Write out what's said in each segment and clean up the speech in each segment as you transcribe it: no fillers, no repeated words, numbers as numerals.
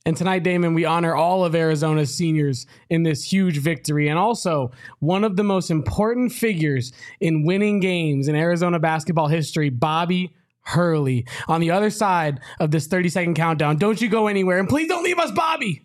And tonight, Damon, we honor all of Arizona's seniors in this huge victory, and also one of the most important figures in winning games in Arizona basketball history, Bobby Hurley, on the other side of this 30-second countdown. Don't you go anywhere, and please don't leave us, Bobby.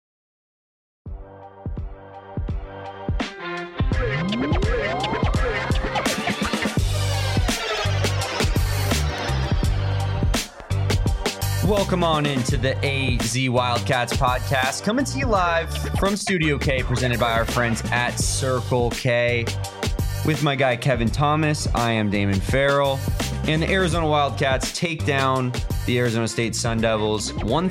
Welcome on into the AZ Wildcats podcast, coming to you live from Studio K, presented by our friends at Circle K. With my guy Kevin Thomas, I am Damon Farrell, and the Arizona Wildcats take down the Arizona State Sun Devils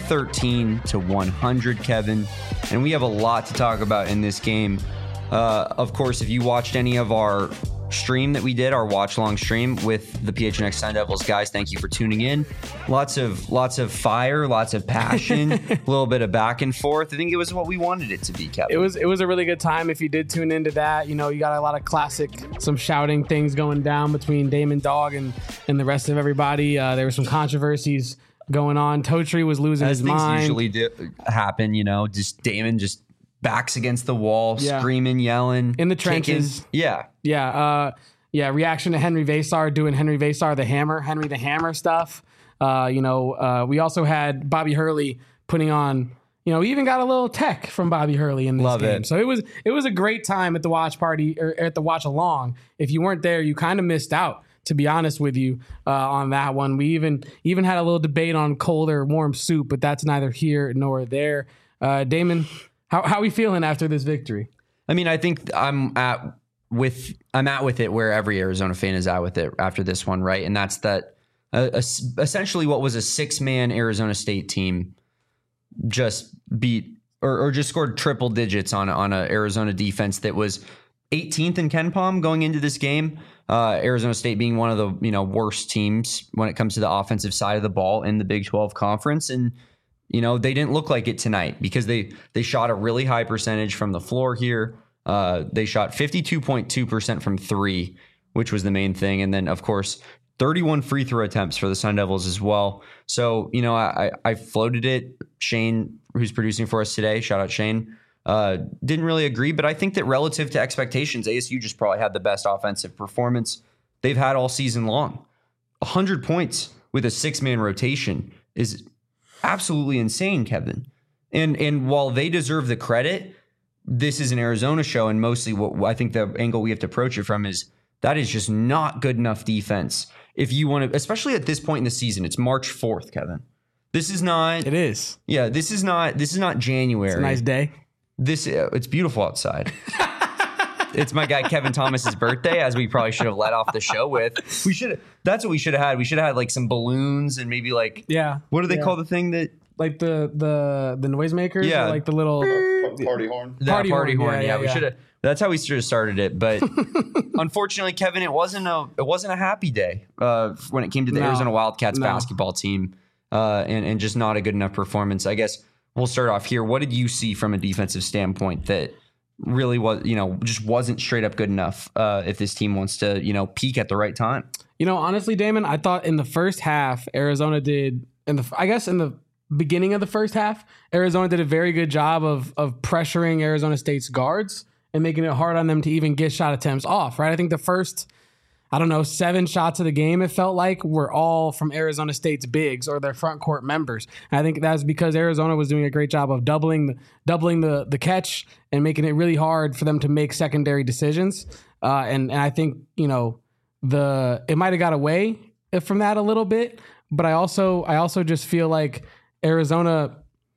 113-100, Kevin. And we have a lot to talk about in this game. Of course, if you watched any of our stream that we did, our watch long stream with the PHNX Sun Devils guys, thank you for tuning in. Lots of fire, lots of passion, a little bit of back and forth. I think it was what we wanted it to be, Kevin. It was a really good time. If you did tune into that, you know, you got a lot of classic, some shouting things going down between Damon Dog and the rest of everybody. There were some controversies going on. Totri was losing his mind. As things usually happen, you know, just Damon just backs against the wall, screaming, yelling. In the trenches. Kicking. Reaction to Henry Vasar doing Henry Vasar the Hammer stuff. We also had Bobby Hurley putting on, we even got a little tech from Bobby Hurley in this game. So it was a great time at the watch party, or at the watch along. If you weren't there, you kind of missed out, to be honest with you, on that one. We even had a little debate on cold or warm soup, but that's neither here nor there. Damon, how are we feeling after this victory? I mean, I think I'm at with it where every Arizona fan is at with it after this one, right? And that's that essentially what was a 6-man Arizona State team just beat or just scored triple digits on a Arizona defense that was 18th in KenPom going into this game. Arizona State being one of the worst teams when it comes to the offensive side of the ball in the Big 12 Conference. And they didn't look like it tonight because they shot a really high percentage from the floor here. They shot 52.2% from three, which was the main thing. And then, of course, 31 free throw attempts for the Sun Devils as well. So, I floated it. Shane, who's producing for us today, shout out Shane, didn't really agree. But I think that relative to expectations, ASU just probably had the best offensive performance they've had all season long. 100 points with a 6-man rotation is absolutely insane, Kevin. And while they deserve the credit, this is an Arizona show, and mostly what I think the angle we have to approach it from is that is just not good enough defense. If you want to, especially at this point in the season, it's March 4th, Kevin. This is not. It is. Yeah, this is not January. It's a nice day. It's beautiful outside. It's my guy Kevin Thomas's birthday, as we probably should have let off the show with. That's what we should have had. We should have had like some balloons and maybe like what do they call the thing that like the noisemakers? Yeah, or like the little party horn. Party horn. Yeah, we should have. That's how we should have started it. But unfortunately, Kevin, it wasn't a happy day when it came to the Arizona Wildcats basketball team, and just not a good enough performance. I guess we'll start off here. What did you see from a defensive standpoint that really was, just wasn't straight up good enough if this team wants to, peak at the right time? Honestly, Damon, I thought in the first half, Arizona did, in the beginning of the first half, Arizona did a very good job of pressuring Arizona State's guards and making it hard on them to even get shot attempts off, right? I think the first, 7 shots of the game, it felt like, were all from Arizona State's bigs or their front court members. And I think that's because Arizona was doing a great job of doubling the catch and making it really hard for them to make secondary decisions. And I think, it might have got away from that a little bit, but I also just feel like Arizona,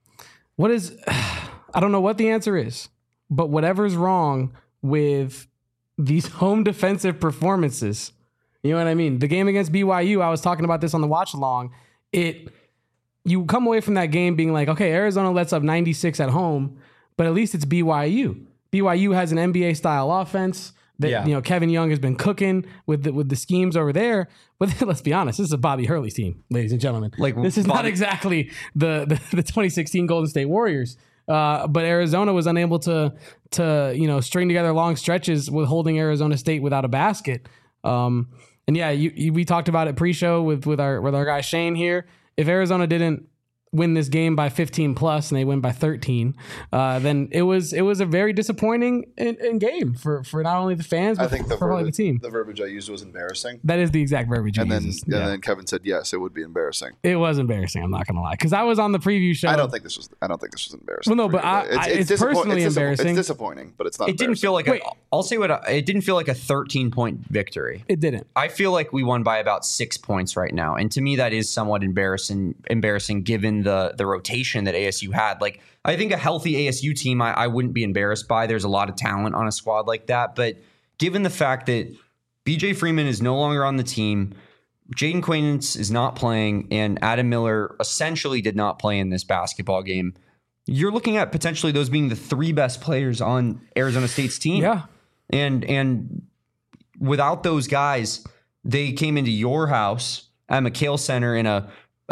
I don't know what the answer is, but whatever's wrong with these home defensive performances, you know what I mean? The game against BYU, I was talking about this on the watch along. You come away from that game being like, okay, Arizona lets up 96 at home, but at least it's BYU. BYU has an NBA style offense that Kevin Young has been cooking with the schemes over there. But let's be honest, this is a Bobby Hurley team, ladies and gentlemen. This is not exactly the 2016 Golden State Warriors. But Arizona was unable to string together long stretches with holding Arizona State without a basket. We talked about it pre-show with our guy Shane here. If Arizona didn't win this game by 15 plus and they win by 13, then it was a very disappointing in game for not only the fans, but for probably the team. The verbiage I used was embarrassing. That is the exact verbiage. And then Kevin said, yes, it would be embarrassing. It was embarrassing. I'm not going to lie. Cause I was on the preview show. I don't think this was embarrassing. Well, no, but it's personally embarrassing. It's disappointing, but it's not. It didn't feel like it didn't feel like a 13-point victory. It didn't. I feel like we won by about 6 points right now. And to me, that is somewhat embarrassing given the rotation that ASU had. Like, I think a healthy ASU team, I wouldn't be embarrassed by. There's a lot of talent on a squad like that. But given the fact that BJ Freeman is no longer on the team, Jaden Quaintance is not playing, and Adam Miller essentially did not play in this basketball game, you're looking at potentially those being the 3 best players on Arizona State's team. Yeah. And without those guys, they came into your house at McKale Center in a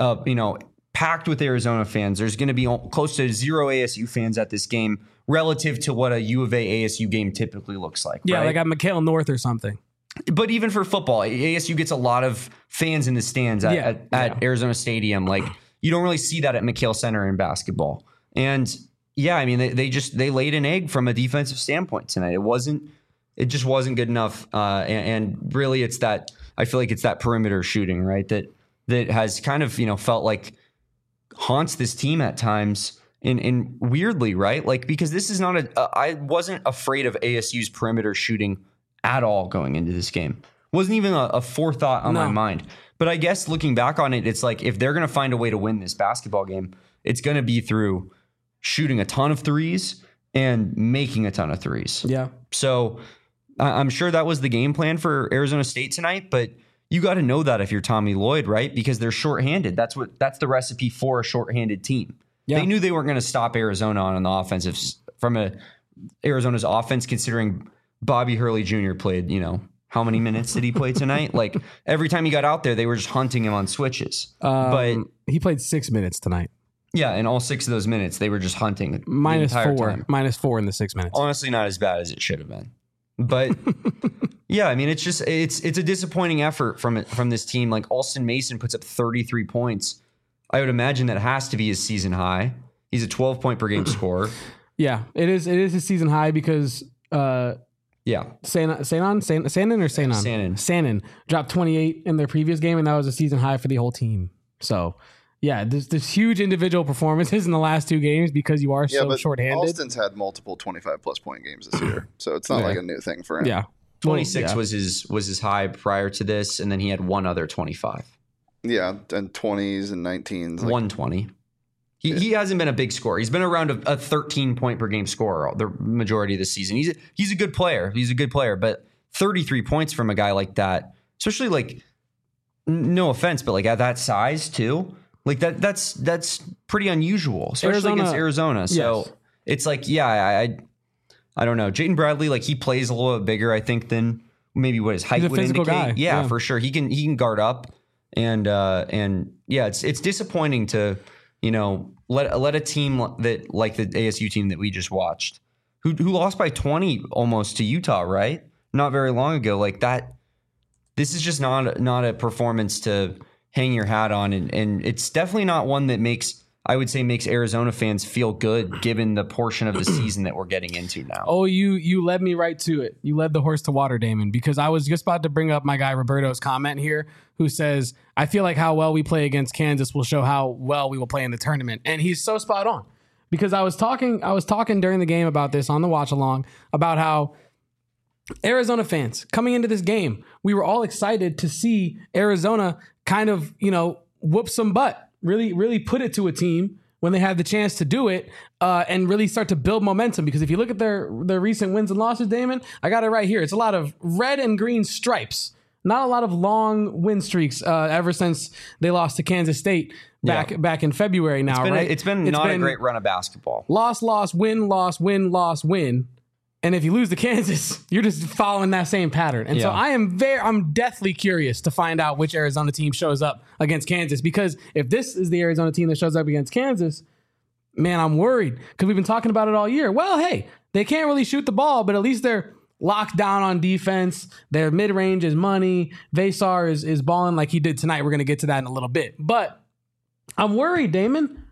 packed with Arizona fans. There's going to be close to 0 ASU fans at this game relative to what a U of A ASU game typically looks like. Yeah, right? like at McKale North or something. But even for football, ASU gets a lot of fans in the stands at Arizona Stadium. Like, you don't really see that at McKale Center in basketball. And yeah, I mean, they laid an egg from a defensive standpoint tonight. It just wasn't good enough. And really, I feel like it's that perimeter shooting, right? That has kind of, felt like haunts this team at times in weirdly, right? Like, because this is not I wasn't afraid of ASU's perimeter shooting at all going into this game. Wasn't even a forethought on my mind. But I guess looking back on it, it's like, if they're going to find a way to win this basketball game, it's going to be through shooting a ton of threes and making a ton of threes. Yeah. So I'm sure that was the game plan for Arizona State tonight, but you got to know that if you're Tommy Lloyd, right? Because they're shorthanded. That's the recipe for a shorthanded team. Yeah. They knew they weren't going to stop Arizona on the offensive from Arizona's offense, considering Bobby Hurley Jr. played, how many minutes did he play tonight? Like, every time he got out there, they were just hunting him on switches. But he played 6 minutes tonight. Yeah, and all 6 of those minutes, they were just hunting. -4. -4 in the 6 minutes. Honestly, not as bad as it should have been. But yeah, I mean, it's a disappointing effort from this team. Like, Alston Mason puts up 33 points. I would imagine that has to be his season high. He's a 12-point per game scorer. Yeah, it is his season high because Sanon dropped 28 in their previous game, and that was a season high for the whole team. So yeah, there's huge individual performances in the last 2 games because you are so shorthanded. Alston's had multiple 25+ point games this year, so it's not like a new thing for him. Yeah, 26 was his high prior to this, and then he had one other 25. Yeah, and 20s and 19s. 120. He hasn't been a big scorer. He's been around a 13-point per game scorer the majority of the season. He's a good player. He's a good player, but 33 points from a guy like that, especially, like, no offense, but like at that size too, like that's pretty unusual, especially against Arizona. So it's like, I don't know. Jayden Bradley, like, he plays a little bit bigger, I think, than maybe what his height would indicate. Guy. Yeah, for sure. He can guard up, and yeah, it's disappointing to let a team that, like the ASU team that we just watched, who lost by 20 almost to Utah, right? Not very long ago, like that. This is just not a performance to hang your hat on, and it's definitely not one that makes Arizona fans feel good given the portion of the season that we're getting into now. Oh, you led me right to it. You led the horse to water, Damon, because I was just about to bring up my guy Roberto's comment here, who says, I feel like how well we play against Kansas will show how well we will play in the tournament. And he's so spot on, because I was talking during the game about this on the watch along about how Arizona fans coming into this game, we were all excited to see Arizona kind of, whoop some butt, really put it to a team when they had the chance to do it, and really start to build momentum. Because if you look at their recent wins and losses, Damon, I got it right here. It's a lot of red and green stripes, not a lot of long win streaks ever since they lost to Kansas State back in February now, right? It's been a great run of basketball. Loss, win, loss, win, loss, win. And if you lose to Kansas, you're just following that same pattern. And so I'm deathly curious to find out which Arizona team shows up against Kansas, because if this is the Arizona team that shows up against Kansas, man, I'm worried, because we've been talking about it all year. Well, hey, they can't really shoot the ball, but at least they're locked down on defense. Their mid-range is money. Vesar is balling like he did tonight. We're going to get to that in a little bit. But I'm worried, Damon.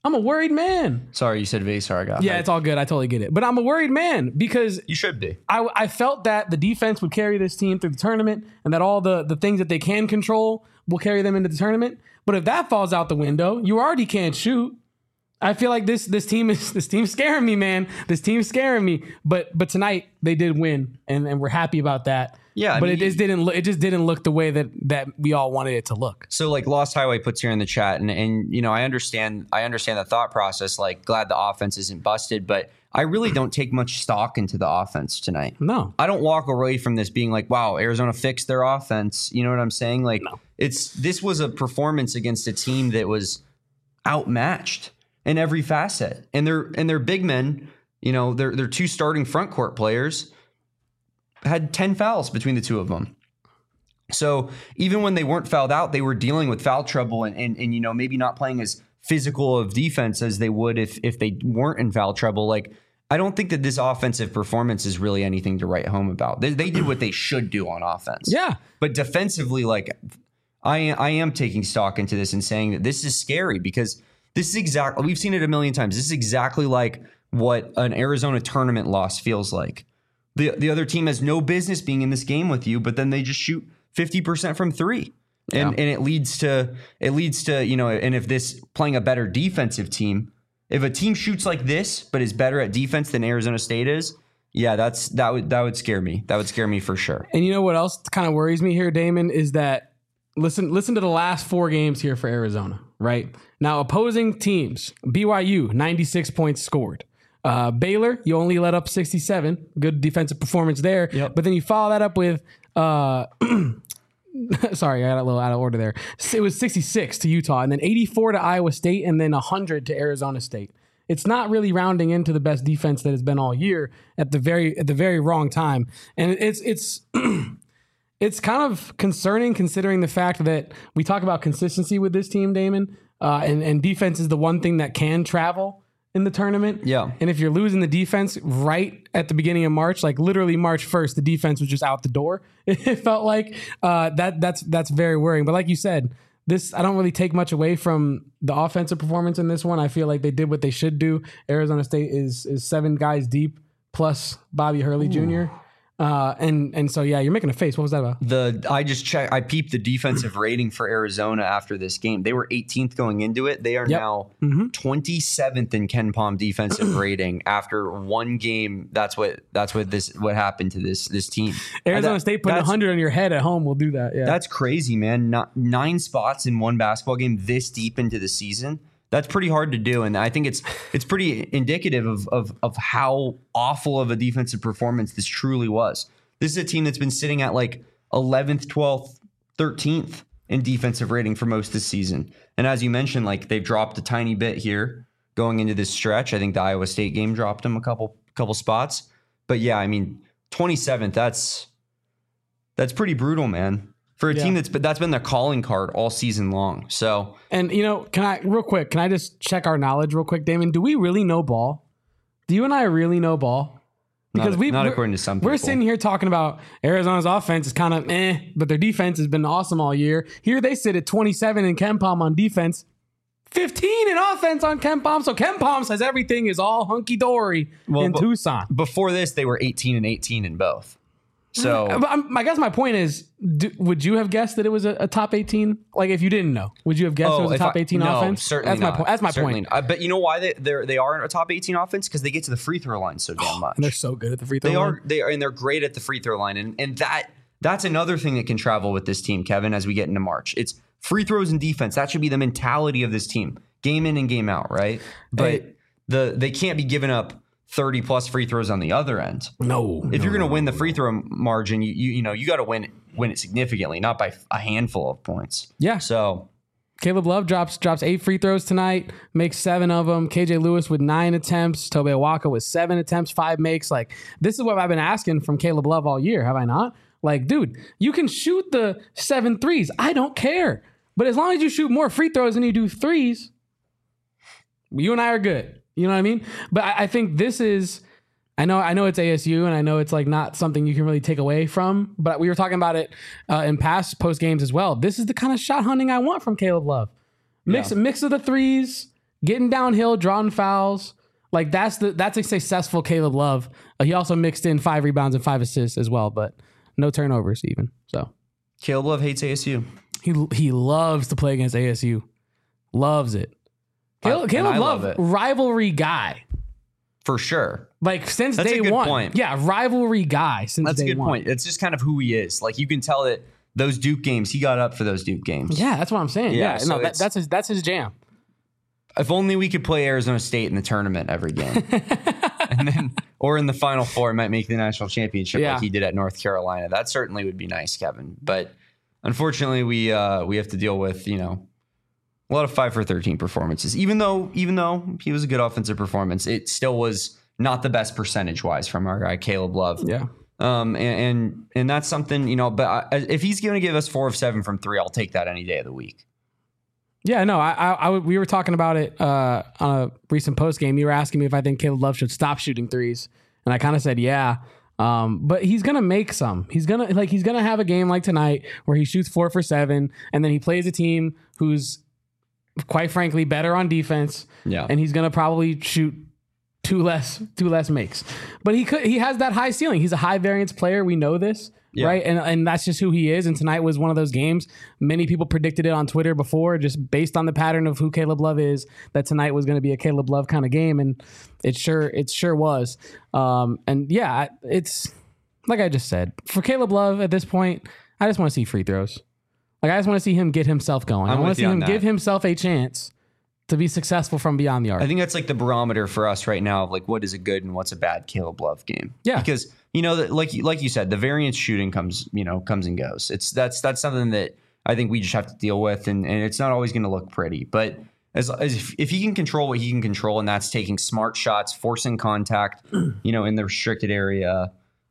I'm a worried man. Sorry, you said Vasar. I got Yeah, hyped. it's all good. I totally get it. But I'm a worried man because You should be. I felt that the defense would carry this team through the tournament and that all the things that they can control will carry them into the tournament. But if that falls out the window, you already can't shoot. I feel like this team's scaring me, man. This team's scaring me. But tonight they did win, and we're happy about that. Yeah, but it just didn't look the way that we all wanted it to look. So like Lost Highway puts here in the chat, and you know I understand the thought process. Like glad the offense isn't busted, but I really don't take much stock into the offense tonight. No, I don't walk away from this being like, wow, Arizona fixed their offense. You know what I'm saying? Like this was a performance against a team that was outmatched in every facet, and their big men, you know, their two starting front court players had 10 fouls between the two of them. So even when they weren't fouled out, they were dealing with foul trouble and you know, maybe not playing as physical of defense as they would if they weren't in foul trouble. Like, I don't think that this offensive performance is really anything to write home about. They did what they should do on offense. Yeah. But defensively, like I am taking stock into this and saying that this is scary because this is exactly, we've seen it a million times. This is exactly like what an Arizona tournament loss feels like. The other team has no business being in this game with you, but then they just shoot 50% from three. And it leads to, you know, and if this playing a better defensive team, if a team shoots like this, but is better at defense than Arizona State is, yeah, that would scare me. That would scare me for sure. And you know what else kind of worries me here, Damon, is that listen to the last 4 games here for Arizona, right? Now, opposing teams, BYU, 96 points scored. Baylor, you only let up 67. Good defensive performance there. Yep. But then you follow that up with, sorry, I got a little out of order there. It was 66 to Utah, and then 84 to Iowa State, and then 100 to Arizona State. It's not really rounding into the best defense that has been all year at the very wrong time. And it's it's kind of concerning considering the fact that we talk about consistency with this team, Damon, and defense is the one thing that can travel in the tournament. Yeah. And if you're losing the defense right at the beginning of March, like literally March 1st, the defense was just out the door. It felt like that's very worrying. But like you said, I don't really take much away from the offensive performance in this one. I feel like they did what they should do. Arizona State is 7 guys deep plus Bobby Hurley Jr. And so, yeah, you're making a face. What was that about? I just checked. I peeped the defensive rating for Arizona after this game. They were 18th going into it. They are now 27th in Ken Pom defensive rating after one game. That's what happened to this team. Arizona State putting 100 on your head at home will do that. Yeah, that's crazy, man. 9 spots in one basketball game this deep into the season. That's pretty hard to do, and I think it's pretty indicative of how awful of a defensive performance this truly was. This is a team that's been sitting at like 11th, 12th, 13th in defensive rating for most of the season. And as you mentioned, like they've dropped a tiny bit here going into this stretch. I think the Iowa State game dropped them a couple spots. But yeah, I mean, 27th, that's pretty brutal, man. For a team that's been their calling card all season long. So, and you know, can I just check our knowledge real quick, Damon? Do we really know ball? Do you and I really know ball? Because not according to some people. We're sitting here talking about Arizona's offense is kind of but their defense has been awesome all year. Here they sit at 27 in Ken Pom on defense, 15 in offense on Ken Pom. So Ken Pom says everything is all hunky dory in Tucson. Before this, they were 18 and 18 in both. So I guess my point is, would you have guessed that it was a top 18? Like if you didn't know, would you have guessed it was a top 18 offense? Certainly not. That's my point. But you know why they are a top 18 offense? Because they get to the free throw line so damn much. And they're so good at the free throw line. They're great at the free throw line. And that's another thing that can travel with this team, Kevin, as we get into March. It's free throws and defense. That should be the mentality of this team. Game in and game out, right? But they can't be giving up 30 plus free throws on the other end. If you're going to win the free throw margin, you got to win it significantly, not by a handful of points. Yeah. So Caleb Love drops 8 free throws tonight, makes 7 of them. KJ Lewis with 9 attempts. Tobe Awaka with 7 attempts, 5 makes. Like, this is what I've been asking from Caleb Love all year, have I not? Like, dude, you can shoot the 7 threes. I don't care. But as long as you shoot more free throws than you do threes, you and I are good. You know what I mean? But I think this is, I know it's ASU and I know it's like not something you can really take away from, but we were talking about it in past post games as well. This is the kind of shot hunting I want from Caleb Love. Mix of the threes, getting downhill, drawing fouls. Like that's a successful Caleb Love. He also mixed in 5 rebounds and 5 assists as well, but no turnovers even. So Caleb Love hates ASU. he loves to play against ASU. Loves it. Caleb Love, rivalry guy. For sure. Like since That's day a good one. point. Yeah, rivalry guy since That's day a good one. point. It's just kind of who he is. Like you can tell that those Duke games, he got up for those Duke games. Yeah, that's what I'm saying. Yeah, Yeah, so no, that's his jam. If only we could play Arizona State in the tournament every game. And then, or in the Final Four, might make the national championship Yeah. like he did at North Carolina. That certainly would be nice, Kevin. But unfortunately, we have to deal with, a lot of 5 for 13 performances. Even though he was a good offensive performance, it still was not the best percentage wise from our guy Caleb Love. Yeah. And that's something, but if he's going to give us 4 of 7 from 3, I'll take that any day of the week. Yeah, no, we were talking about it on a recent post game. You were asking me if I think Caleb Love should stop shooting threes, and I kind of said yeah. But he's gonna make some. He's gonna have a game like tonight where he shoots 4 for 7, and then he plays a team who's quite frankly better on defense. Yeah, and he's gonna probably shoot two less makes. But he has that high ceiling. He's a high variance player. We know this. Yeah. Right. And that's just who he is. And tonight was one of those games. Many people predicted it on Twitter before, just based on the pattern of who Caleb Love is, that tonight was going to be a Caleb Love kind of game. And it sure was. And yeah, it's like I just said, for Caleb Love at this point, I just want to see free throws. Like I just want to see him get himself going. I want to see him give himself a chance to be successful from beyond the arc. I think that's like the barometer for us right now of like what is a good and what's a bad Caleb Love game. Yeah. Because like you said, the variance shooting comes and goes. That's something that I think we just have to deal with, and it's not always going to look pretty. But as if he can control what he can control, and that's taking smart shots, forcing contact, in the restricted area,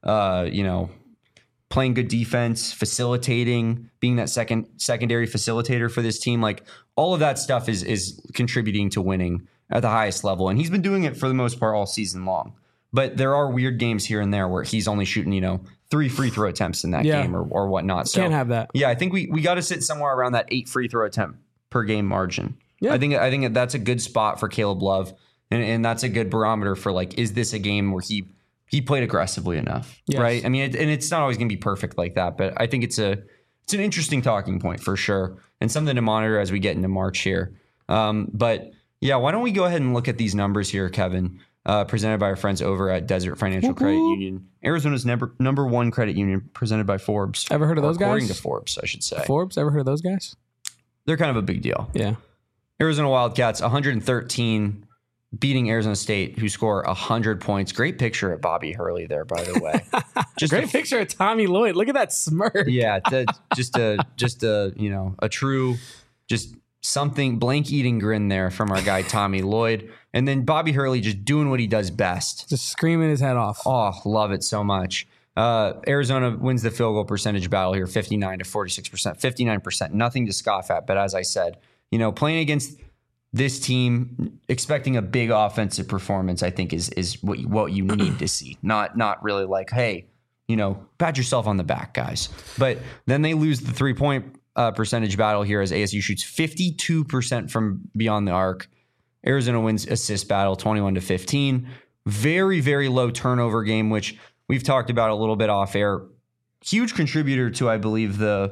playing good defense, facilitating, being that secondary facilitator for this team, like all of that stuff is contributing to winning at the highest level. And he's been doing it for the most part all season long. But there are weird games here and there where he's only shooting, 3 free throw attempts in that game or whatnot. So can't have that. Yeah, I think we got to sit somewhere around that 8 free throw attempt per game margin. Yeah. I think that's a good spot for Caleb Love, and that's a good barometer for like, is this a game where he played aggressively enough, right? I mean, and it's not always going to be perfect like that, but I think it's an interesting talking point for sure, and something to monitor as we get into March here. But yeah, why don't we go ahead and look at these numbers here, Kevin? Presented by our friends over at Desert Financial Credit Union, Arizona's number 1 credit union, presented by Forbes. Ever heard of those guys? According to Forbes, I should say. Forbes, ever heard of those guys? They're kind of a big deal. Yeah. Arizona Wildcats, 113, beating Arizona State, who score 100 points. Great picture of Bobby Hurley there, by the way. Just great picture of Tommy Lloyd. Look at that smirk. Yeah, just a true, just something blank eating grin there from our guy Tommy Lloyd. And then Bobby Hurley just doing what he does best. Just screaming his head off. Oh, love it so much. Arizona wins the field goal percentage battle here, 59 to 46%, 59%. Nothing to scoff at. But as I said, playing against this team, expecting a big offensive performance, I think is what you need to see. Not really like, hey, pat yourself on the back, guys. But then they lose the 3-point percentage battle here as ASU shoots 52% from beyond the arc. Arizona wins assist battle 21 to 15. Very, very low turnover game, which we've talked about a little bit off air. Huge contributor to, I believe, the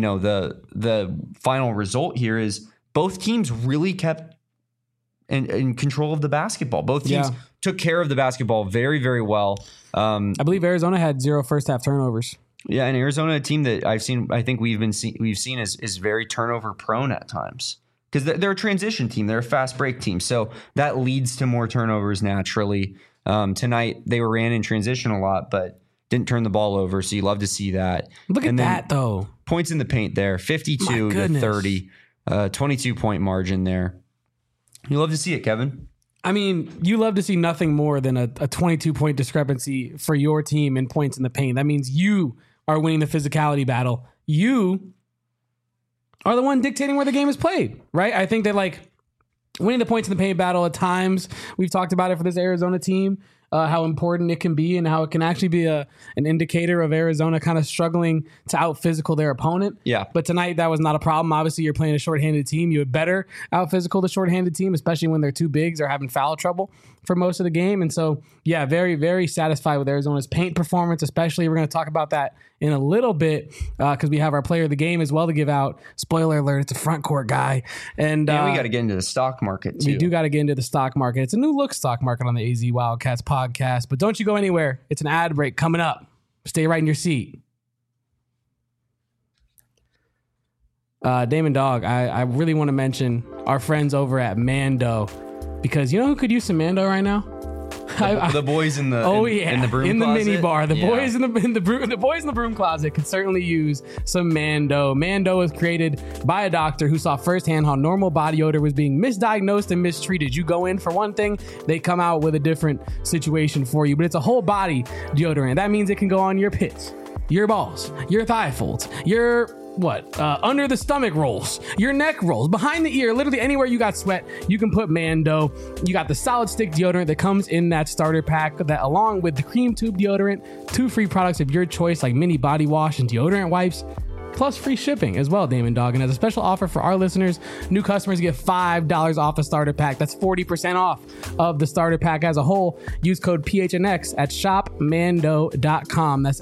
final result here is both teams really kept in control of the basketball. Both teams took care of the basketball very, very well. I believe Arizona had 0 first half turnovers. Yeah, and Arizona, a team that I think we've seen is very turnover prone at times. Because they're a transition team. They're a fast break team. So that leads to more turnovers naturally. Tonight, they ran in transition a lot, but didn't turn the ball over. So you love to see that. Look at that, though. Points in the paint there, 52 to 30, 22-point margin there. You love to see it, Kevin. I mean, you love to see nothing more than a 22-point discrepancy for your team in points in the paint. That means you are winning the physicality battle. You are the one dictating where the game is played, right? I think that winning the points in the paint battle at times, we've talked about it for this Arizona team, how important it can be and how it can actually be an indicator of Arizona kind of struggling to out physical their opponent. Yeah. But tonight that was not a problem. Obviously, you're playing a shorthanded team. You would better out physical the shorthanded team, especially when they're too big. They're having foul trouble for most of the game. And so, yeah, very, very satisfied with Arizona's paint performance, especially. We're going to talk about that in a little bit because we have our player of the game as well to give out. Spoiler alert, it's a front court guy. And we got to get into the stock market, too. We do got to get into the stock market. It's a new look stock market on the AZ Wildcats podcast. But don't you go anywhere. It's an ad break coming up. Stay right in your seat. Damon Dog, I really want to mention our friends over at Mando because you know who could use some Mando right now? The boys in the in the broom in the closet. mini bar. The boys in the broom closet could certainly use some Mando. Mando was created by a doctor who saw firsthand how normal body odor was being misdiagnosed and mistreated. You go in for one thing, they come out with a different situation for you. But it's a whole body deodorant. That means it can go on your pits, your balls, your thigh folds, your under the stomach rolls, your neck rolls, behind the ear, literally anywhere you got sweat, you can put Mando. You got the solid stick deodorant that comes in that starter pack that along with the cream tube deodorant, 2 free products of your choice like mini body wash and deodorant wipes, plus free shipping as well, Damon Dog. And as a special offer for our listeners, new customers get $5 off a starter pack. That's 40% off of the starter pack as a whole. Use code PHNX at shopmando.com. That's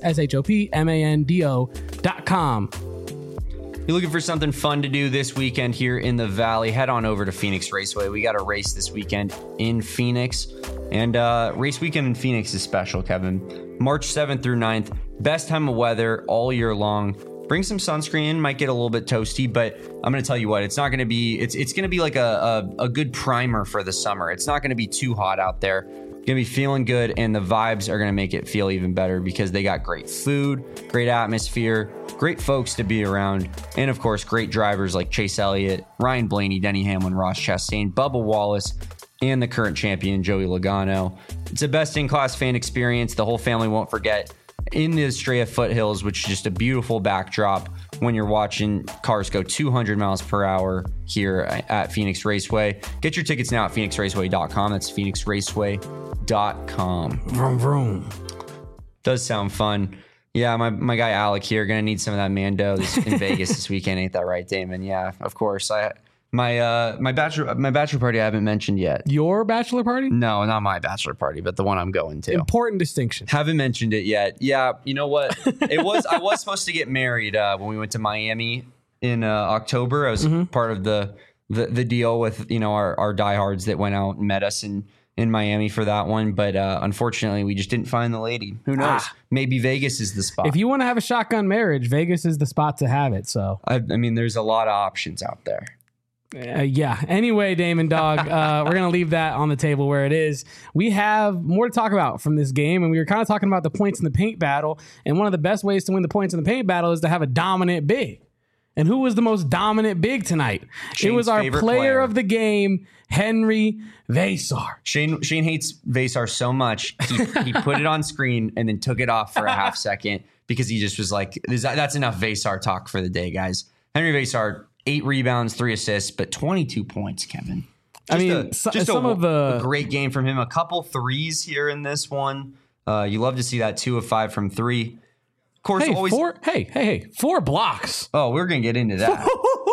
shopmando.com. You're looking for something fun to do this weekend here in the Valley, head on over to Phoenix Raceway. We got a race this weekend in Phoenix, and race weekend in Phoenix is special, Kevin. March 7th through 9th, best time of weather all year long. Bring some sunscreen, might get a little bit toasty, but I'm going to tell you what, it's not going to be, it's going to be like a good primer for the summer. It's not going to be too hot out there. Going to be feeling good, and the vibes are going to make it feel even better because they got great food, great atmosphere, great folks to be around, and of course, great drivers like Chase Elliott, Ryan Blaney, Denny Hamlin, Ross Chastain, Bubba Wallace, and the current champion, Joey Logano. It's a best-in-class fan experience the whole family won't forget. In the Estrella foothills, which is just a beautiful backdrop when you're watching cars go 200 miles per hour here at Phoenix Raceway. Get your tickets now at phoenixraceway.com. That's phoenixraceway.com. Vroom, vroom. Does sound fun. Yeah, my guy Alec here gonna need some of that Mando in Vegas this weekend. Ain't that right, Damon? Yeah, of course. My bachelor party I haven't mentioned yet. Your bachelor party? No, not my bachelor party, but the one I'm going to. Important distinction. Haven't mentioned it yet. Yeah, you know what? I was supposed to get married when we went to Miami in October. I was part of the deal with our diehards that went out and met us in Miami for that one, but unfortunately we just didn't find the lady. Who knows? Maybe Vegas is the spot. If you want to have a shotgun marriage, Vegas is the spot to have it. So I mean, there's a lot of options out there. Yeah. Anyway, Damon Dog, we're going to leave that on the table where it is. We have more to talk about from this game, and we were kind of talking about the points in the paint battle, and one of the best ways to win the points in the paint battle is to have a dominant big. And who was the most dominant big tonight? Shane's it was our favorite player of the game, Henry Veysar. Shane hates Veysar so much, he put it on screen and then took it off for a half second because he just was like, that's enough Veysar talk for the day, guys. Henry Veysar, 8 rebounds, 3 assists, but 22 points, Kevin. A great game from him. A couple threes here in this one. You love to see that 2 of 5 from 3. Of course, hey, 4 blocks. Oh, we're gonna get into that.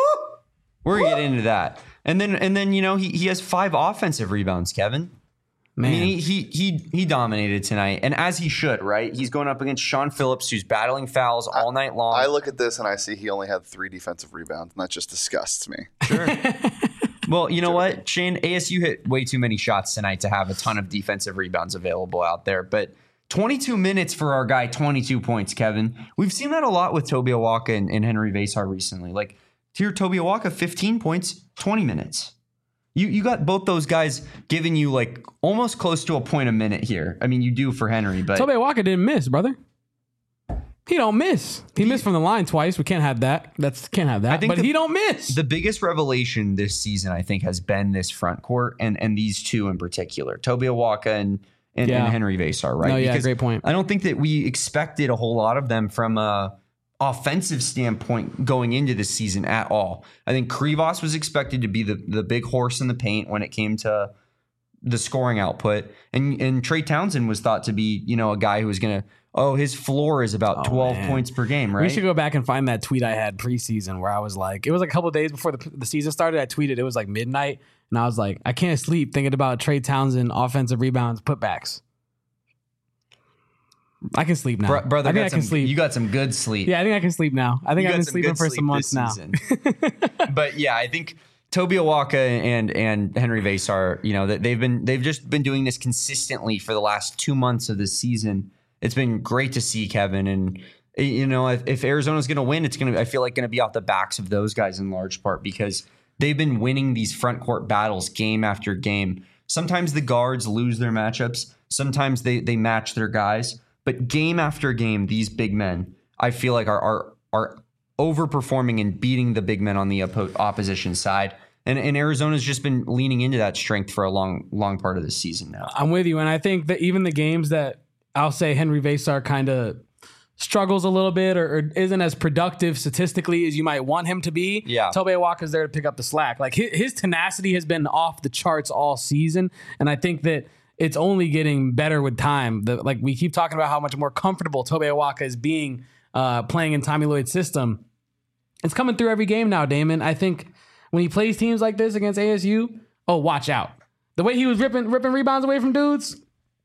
And then he has 5 offensive rebounds, Kevin. Man, I mean, he dominated tonight, and as he should, right? He's going up against Sean Phillips, who's battling fouls all night long. I look at this and I see he only had 3 defensive rebounds, and that just disgusts me. Sure. Well, you know what, Shane? ASU hit way too many shots tonight to have a ton of defensive rebounds available out there, but 22 minutes for our guy, 22 points, Kevin. We've seen that a lot with Toby Awaka and Henry Veysar recently. Like, here, Toby Awaka, 15 points, 20 minutes. You got both those guys giving you like almost close to a point a minute here. I mean, you do for Henry, but Toby Awaka didn't miss, brother. He don't miss. He missed from the line twice. We can't have that. Can't have that. But he don't miss. The biggest revelation this season, I think, has been this front court and these two in particular, Toby Awaka and Henry Veysar, right? No, yeah, great point. I don't think that we expected a whole lot of them from a offensive standpoint going into this season at all. I think Krivos was expected to be the big horse in the paint when it came to the scoring output. And Trey Townsend was thought to be, a guy who was going to, his floor is about 12 points per game, right? We should go back and find that tweet I had preseason where I was like, it was like a couple of days before the season started. I tweeted, it was like midnight. And I was like, I can't sleep thinking about Trey Townsend offensive rebounds, putbacks. I can sleep now. Brother, I think I can sleep. You got some good sleep. Yeah, I think I can sleep now. I think I've been sleeping for some months now. But yeah, I think Toby Awaka and Henry Vesar, they've just been doing this consistently for the last 2 months of this season. It's been great to see, Kevin. And if Arizona's going to win, I feel like going to be off the backs of those guys in large part because they've been winning these front court battles game after game. Sometimes the guards lose their matchups. Sometimes they match their guys. But game after game, these big men, I feel like are overperforming and beating the big men on the opposition side. And Arizona's just been leaning into that strength for a long part of the season now. I'm with you. And I think that even the games that I'll say Henry Vesar kind of struggles a little bit or isn't as productive statistically as you might want him to be, Tobe Awaka's there to pick up the slack. Like his tenacity has been off the charts all season. And I think that it's only getting better with time. Like we keep talking about how much more comfortable Tobe Awaka is being playing in Tommy Lloyd's system. It's coming through every game now, Damon. I think when he plays teams like this against ASU, watch out. The way he was ripping rebounds away from dudes,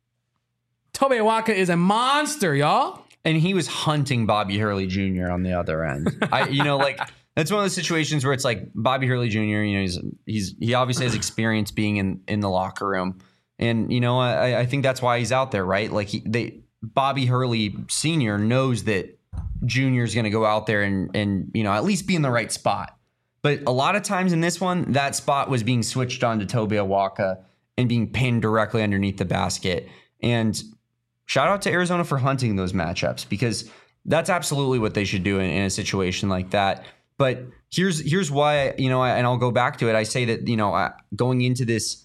Tobe Awaka is a monster, y'all. And he was hunting Bobby Hurley Jr. on the other end. That's one of those situations where it's like Bobby Hurley Jr., he obviously has experience being in the locker room. And, I think that's why he's out there, right? Like Bobby Hurley Sr. knows that Junior is going to go out there and at least be in the right spot. But a lot of times in this one, that spot was being switched on to Tobe Awaka and being pinned directly underneath the basket. And shout out to Arizona for hunting those matchups because that's absolutely what they should do in a situation like that. But here's why, and I'll go back to it. I say that, going into this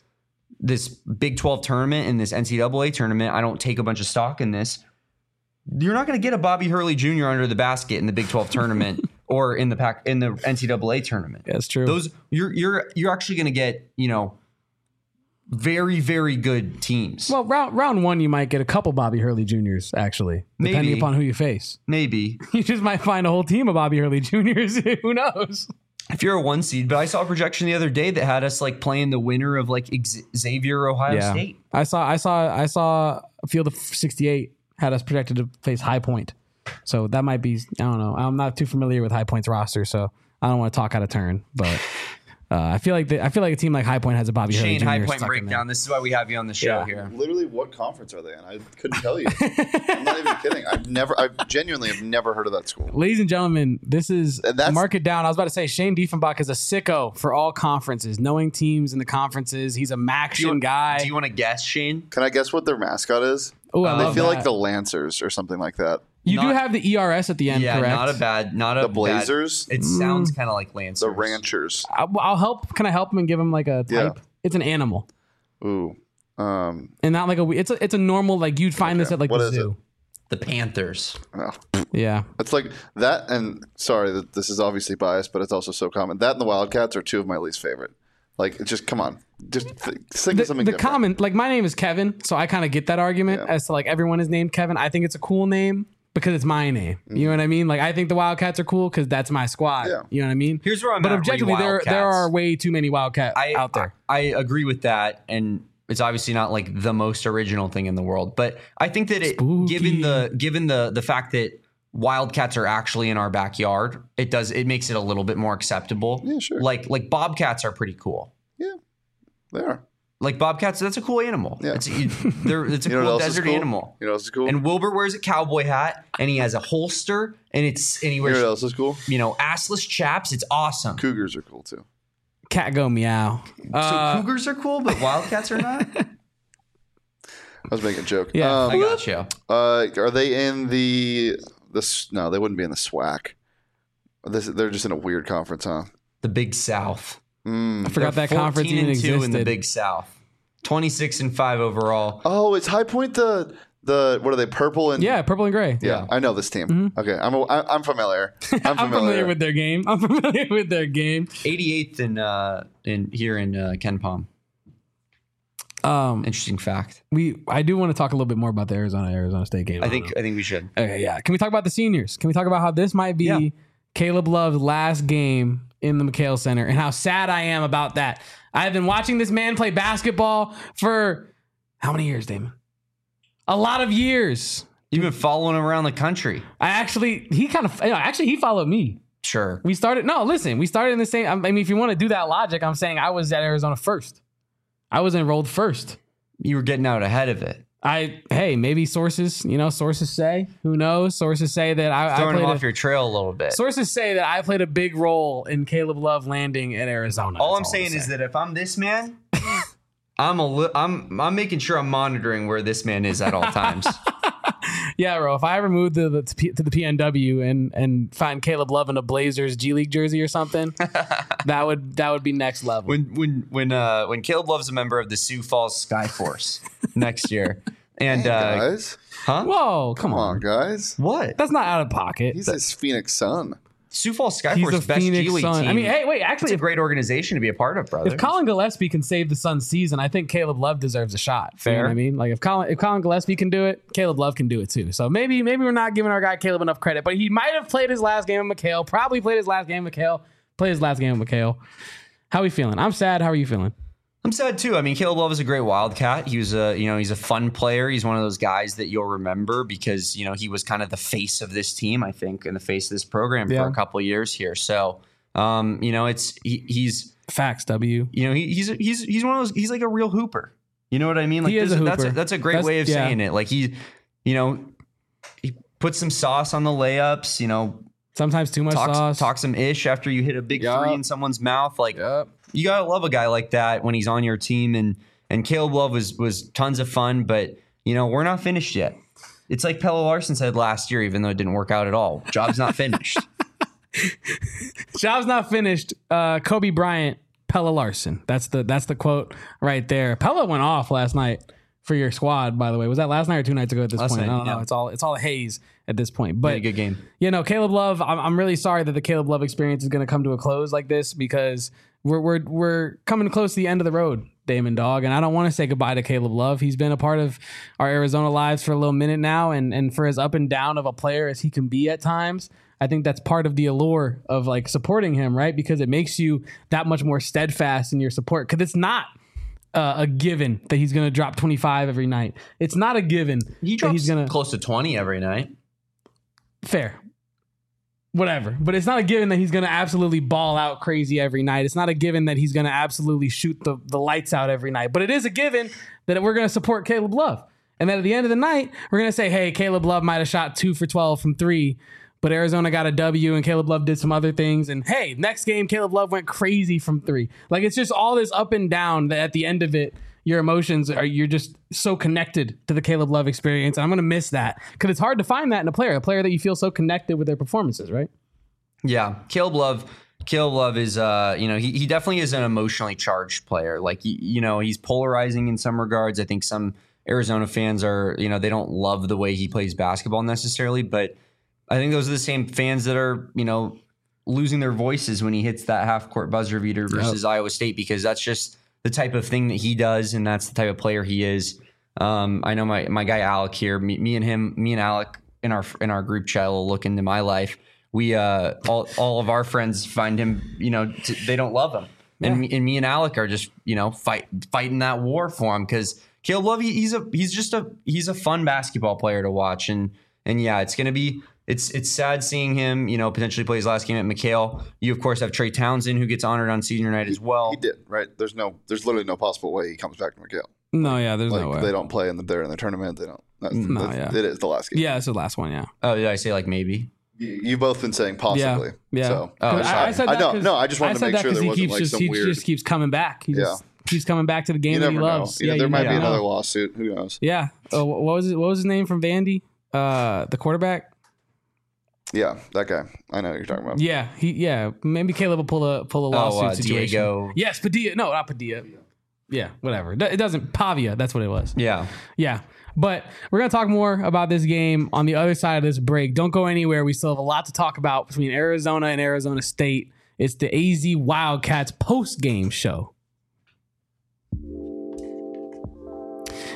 Big 12 tournament and this NCAA tournament, I don't take a bunch of stock in this. You're not going to get a Bobby Hurley Jr. under the basket in the Big 12 tournament or in the NCAA tournament. That's true. Those you're actually going to get, very, very good teams. Well, round one, you might get a couple Bobby Hurley Juniors, actually, depending upon who you face. Maybe. You just might find a whole team of Bobby Hurley Juniors. Who knows? If you're a 1 seed, but I saw a projection the other day that had us like playing the winner of like Xavier Ohio State. I saw a field of 68 had us projected to face High Point. So that might be, I don't know. I'm not too familiar with High Point's roster, so I don't want to talk out of turn, but I feel like a team like High Point has a Bobby Hurley Jr. High Point breakdown. This is why we have you on the show here. Literally, what conference are they in? I couldn't tell you. I'm not even kidding. I genuinely have never heard of that school. Ladies and gentlemen, this is mark it down. I was about to say Shane Diefenbach is a sicko for all conferences, knowing teams in the conferences. He's a Maction guy. Do you want to guess, Shane? Can I guess what their mascot is? Oh, I feel like the Lancers or something like that. You do have the ERS at the end, correct? Yeah, the Blazers. It sounds kind of like Lancers. The Ranchers. I'll help. Can I help him and give him like a type? Yeah. It's an animal. Ooh. And not like it's a normal, like you'd find this at like the zoo. The Panthers. Oh. Yeah. It's like that, and sorry, this is obviously biased, but it's also so common. That and the Wildcats are two of my least favorite. Like, it's just, come on. Just think of something different. Common, like my name is Kevin, so I kind of get that argument as to like everyone is named Kevin. I think it's a cool name because it's my name. You know what I mean? Like, I think the Wildcats are cool because that's my squad. Yeah. You know what I mean? Here's where I'm But at. objectively, there are way too many Wildcats out there. I agree with that, and it's obviously not like the most original thing in the world. But I think that given the fact that Wildcats are actually in our backyard, it makes it a little bit more acceptable. Yeah, sure. Like Bobcats are pretty cool. Yeah, they are. Like Bobcats, that's a cool animal. Yeah. It's a cool desert animal. You know what else is cool? And Wilbur wears a cowboy hat, and he has a holster, and he wears. You know what else is cool? Assless chaps. It's awesome. Cougars are cool too. Cat go meow. So cougars are cool, but Wildcats are not. I was making a joke. Yeah, I got you. Are they in the? No, they wouldn't be in the SWAC. They're just in a weird conference, huh? The Big South. I forgot that conference even existed. In the Big South. 26-5 overall. Oh, is High Point the what are they? Purple and purple and gray. Yeah, I know this team. Mm-hmm. Okay, I'm familiar. I'm familiar with their game. 88th in here in Ken Palm. Interesting fact. I do want to talk a little bit more about the Arizona State game. I think we should. Okay, yeah. Can we talk about the seniors? Can we talk about how this might be Caleb Love's last game in the McHale Center and how sad I am about that? I've been watching this man play basketball for how many years, Damon? A lot of years. You've been following him around the country. He followed me. Sure. We started in the same. I mean, if you want to do that logic, I'm saying I was at Arizona first. I was enrolled first. You were getting out ahead of it. Maybe sources say, who knows? Sources say that I throwing played him off your trail a little bit. Sources say that I played a big role in Caleb Love landing at Arizona. All I'm saying is that if I'm this man, I'm making sure I'm monitoring where this man is at all times. Yeah, bro. If I ever move to the PNW and find Caleb Love in a Blazers G League jersey or something, that would be next level. When Caleb Love's a member of the Sioux Falls Skyforce next year, and guys, whoa, come on, guys, what? That's not out of pocket. He's his Phoenix Sun. Sioux Falls He's Skyforce, the best Phoenix G League Sun. team. I mean, hey, wait, actually, it's a great organization to be a part of, brother. If Colin Gillespie can save the Suns' season, I think Caleb Love deserves a shot. Fair. You know what I mean? Like if Colin Gillespie can do it, Caleb Love can do it too. So maybe we're not giving our guy Caleb enough credit, but he might have played his last game with McHale. Probably played his last game with McHale. Played his last game with McHale. How are we feeling? I'm sad. How are you feeling? I'm sad too. I mean, Caleb Love is a great Wildcat. He was he's a fun player. He's one of those guys that you'll remember because, he was kind of the face of this team, I think, and the face of this program for a couple of years here. So, he's facts. W. He's one of those. He's like a real hooper. You know what I mean? Like he is a hooper. That's a great way of saying it. Like he puts some sauce on the layups. Sometimes too much sauce. Talk some ish after you hit a big three in someone's mouth. Like you gotta love a guy like that when he's on your team. And Caleb Love was tons of fun, but we're not finished yet. It's like Pelle Larsson said last year, even though it didn't work out at all. Job's not finished. Job's not finished. Kobe Bryant, Pelle Larsson. That's the quote right there. Pelle went off last night for your squad, by the way. Was that last night or 2 nights ago at this point? Night, I don't know. It's all haze at this point. But a good game. Caleb Love, I'm really sorry that the Caleb Love experience is going to come to a close like this because we're coming close to the end of the road, Damon Dog, and I don't want to say goodbye to Caleb Love. He's been a part of our Arizona lives for a little minute now, and for as up and down of a player as he can be at times, I think that's part of the allure of like supporting him, right? Because it makes you that much more steadfast in your support. Because it's not a given that he's going to drop 25 every night. It's not a given. He drops close to 20 every night. Fair. Whatever. But it's not a given that he's going to absolutely ball out crazy every night. It's not a given that he's going to absolutely shoot the lights out every night. But it is a given that we're going to support Caleb Love. And then at the end of the night, we're going to say, hey, Caleb Love might have shot 2 for 12 from 3, but Arizona got a W and Caleb Love did some other things. And hey, next game, Caleb Love went crazy from 3. Like it's just all this up and down that at the end of it, your emotions you're just so connected to the Caleb Love experience. And I'm going to miss that because it's hard to find that in a player that you feel so connected with their performances, right? Yeah. Caleb Love is, he definitely is an emotionally charged player. Like, he's polarizing in some regards. I think some Arizona fans are, they don't love the way he plays basketball necessarily, but I think those are the same fans that are, losing their voices when he hits that half court buzzer beater versus Iowa State, because that's just the type of thing that he does. And that's the type of player he is. I know my guy, Alec here, me and Alec in our group chat will look into my life. We, all of our friends find him, they don't love him. Yeah. And me and Alec are just, fighting that war for him. Cause Caleb Love, he's a fun basketball player to watch. And yeah, it's going to be, it's sad seeing him, potentially play his last game at McHale. You, of course, have Trey Townsend, who gets honored on senior night as well. He did, right? There's literally no possible way he comes back to McHale. No, yeah, there's no way. They don't play they're in the tournament. They don't. It is the last game. Yeah, it's the last one, yeah. Oh, did I say like maybe? You've both been saying possibly. Yeah. So, I said that. I just wanted to make sure there wasn't like some weird. He just keeps coming back. He just keeps coming back to the game that he loves. There might be another lawsuit. Who knows? Yeah. What was his name from Vandy? The quarterback. Yeah, that guy. I know what you're talking about. Yeah, maybe Caleb will pull a lawsuit situation. Diego. Yes, Padilla. No, not Padilla. Yeah, whatever. It doesn't. Pavia. That's what it was. Yeah. But we're going to talk more about this game on the other side of this break. Don't go anywhere. We still have a lot to talk about between Arizona and Arizona State. It's the AZ Wildcats post-game show.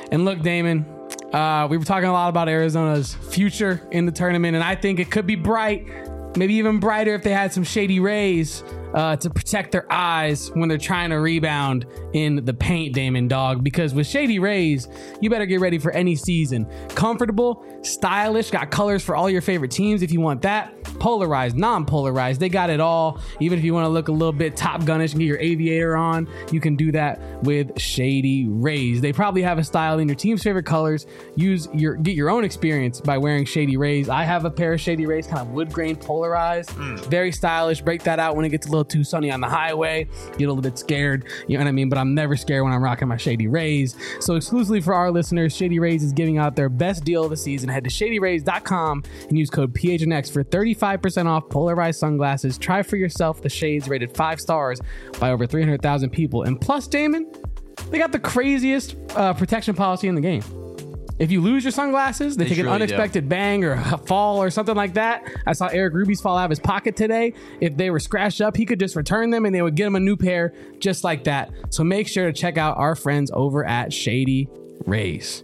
And look, Damon, we were talking a lot about Arizona's future in the tournament, and I think it could be bright, maybe even brighter if they had some Shady Rays to protect their eyes when they're trying to rebound in the paint, Damon, dog. Because with Shady Rays, you better get ready for any season. Comfortable, stylish, got colors for all your favorite teams if you want that. Polarized, non-polarized, they got it all. Even if you want to look a little bit Top Gun-ish and get your aviator on, you can do that with Shady Rays. They probably have a style in your team's favorite colors. Get your own experience by wearing Shady Rays. I have a pair of Shady Rays, kind of wood grain polarized, very stylish. Break that out when it gets a little too sunny on the highway. Get a little bit scared, you know what I mean? But I'm never scared when I'm rocking my Shady Rays. So exclusively for our listeners, Shady Rays is giving out their best deal of the season. Head to shadyrays.com and use code PHNX for 35% off polarized sunglasses. Try for yourself the shades rated 5 stars by over 300,000 people. And plus, Damon, they got the craziest protection policy in the game. If you lose your sunglasses, they take an unexpected bang or a fall or something like that. I saw Eric Ruby's fall out of his pocket today. If they were scratched up, he could just return them and they would get him a new pair just like that. So make sure to check out our friends over at Shady Rays.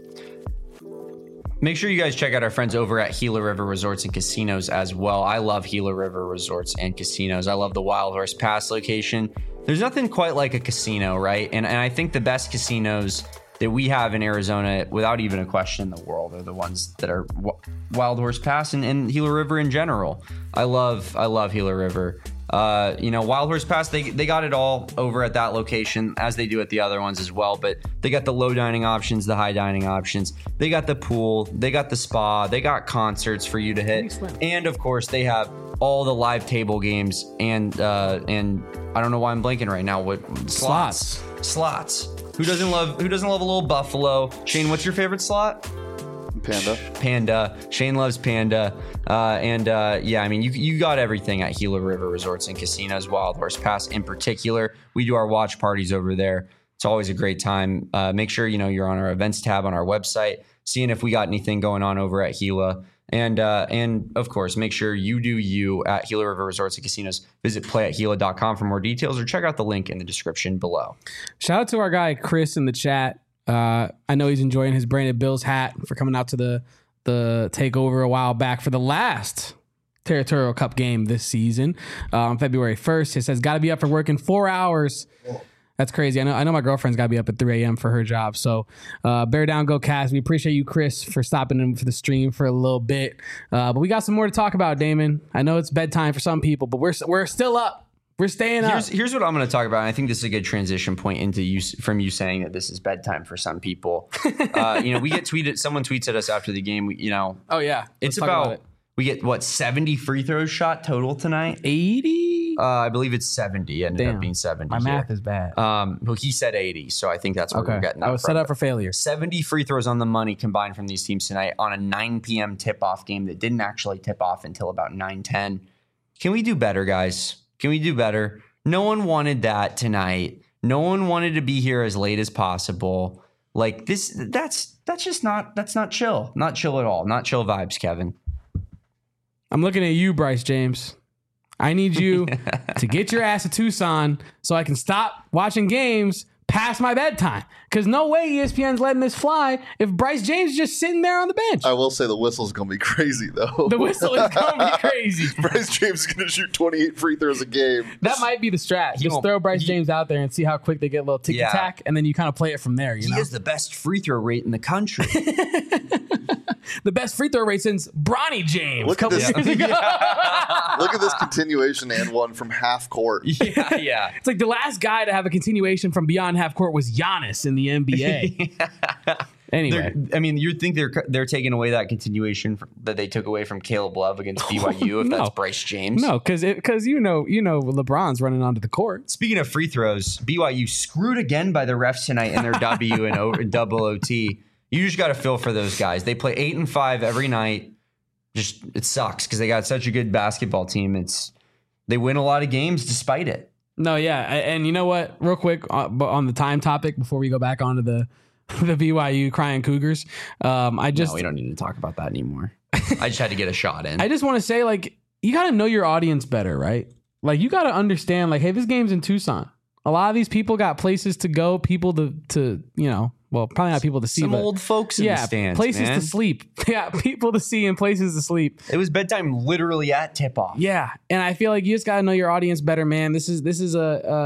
Make sure you guys check out our friends over at Gila River Resorts and Casinos as well. I love Gila River Resorts and Casinos. I love the Wild Horse Pass location. There's nothing quite like a casino, right? And I think the best casinos that we have in Arizona, without even a question in the world, are the ones that are Wild Horse Pass and Gila River in general. I love Gila River. Wild Horse Pass, they got it all over at that location, as they do at the other ones as well. But they got the low dining options, the high dining options. They got the pool, they got the spa, they got concerts for you to hit, and of course they have all the live table games and I don't know why I'm blanking right now. What slots? Who doesn't love a little buffalo? Shane, what's your favorite slot? Panda. Shane loves Panda. You got everything at Gila River Resorts and Casinos, Wild Horse Pass in particular. We do our watch parties over there. It's always a great time. Make sure you're on our events tab on our website, seeing if we got anything going on over at Gila. And of course, make sure you do you at Gila River Resorts and Casinos. Visit playatgila.com for more details or check out the link in the description below. Shout out to our guy Chris in the chat. I know he's enjoying his Brandon Bills hat for coming out to the takeover a while back for the last Territorial Cup game this season on February 1st. He says, got to be up for work in 4 hours. That's crazy. I know my girlfriend's got to be up at 3 a.m. for her job. So bear down, go Cast. We appreciate you, Chris, for stopping in for the stream for a little bit. But we got some more to talk about, Damon. I know it's bedtime for some people, but we're still up. We're staying up. Here's what I'm going to talk about. And I think this is a good transition point into you saying that this is bedtime for some people. We get tweeted. Someone tweets at us after the game. Oh yeah, it's about we get 70 free throws shot total tonight. 80. I believe it's 70. Ended up being 70. My math is bad. Well, he said 80, so I think that's what we're getting. I was set up for failure. 70 free throws on the money combined from these teams tonight on a 9 p.m. tip-off game that didn't actually tip off until about 9:10. Can we do better, guys? Can we do better? No one wanted that tonight. No one wanted to be here as late as possible. Like this, that's not chill. Not chill at all. Not chill vibes, Kevin. I'm looking at you, Bryce James. I need you to get your ass to Tucson so I can stop watching games past my bedtime. Because no way ESPN's letting this fly if Bryce James is just sitting there on the bench. I will say the whistle's going to be crazy, though. The whistle is going to be crazy. Bryce James is going to shoot 28 free throws a game. That might be the strat. Just throw Bryce James out there and see how quick they get a little ticky-tack, and then you kind of play it from there. He has the best free throw rate in the country. The best free throw rate since Bronny James Look a couple at this. years ago. Look at this continuation and one from half court. Yeah. It's like the last guy to have a continuation from beyond half court was Giannis in the NBA. Anyway, you'd think they're taking away that continuation that they took away from Caleb Love against BYU if that's Bryce James. No, because LeBron's running onto the court. Speaking of free throws, BYU screwed again by the refs tonight in their W and double OT. You just got to feel for those guys. They play 8 and 5 every night. Just it sucks because they got such a good basketball team. They win a lot of games despite it. No, yeah, and you know what? Real quick on the time topic before we go back onto the BYU crying Cougars. We don't need to talk about that anymore. I just had to get a shot in. I just want to say, you got to know your audience better, right? You got to understand, hey, this game's in Tucson. A lot of these people got places to go, people to well, probably not people to see, Some but old folks in the stands, places man. to sleep. Yeah, people to see and places to sleep. It was bedtime literally at tip-off. Yeah, and I feel like you just got to know your audience better, man. This is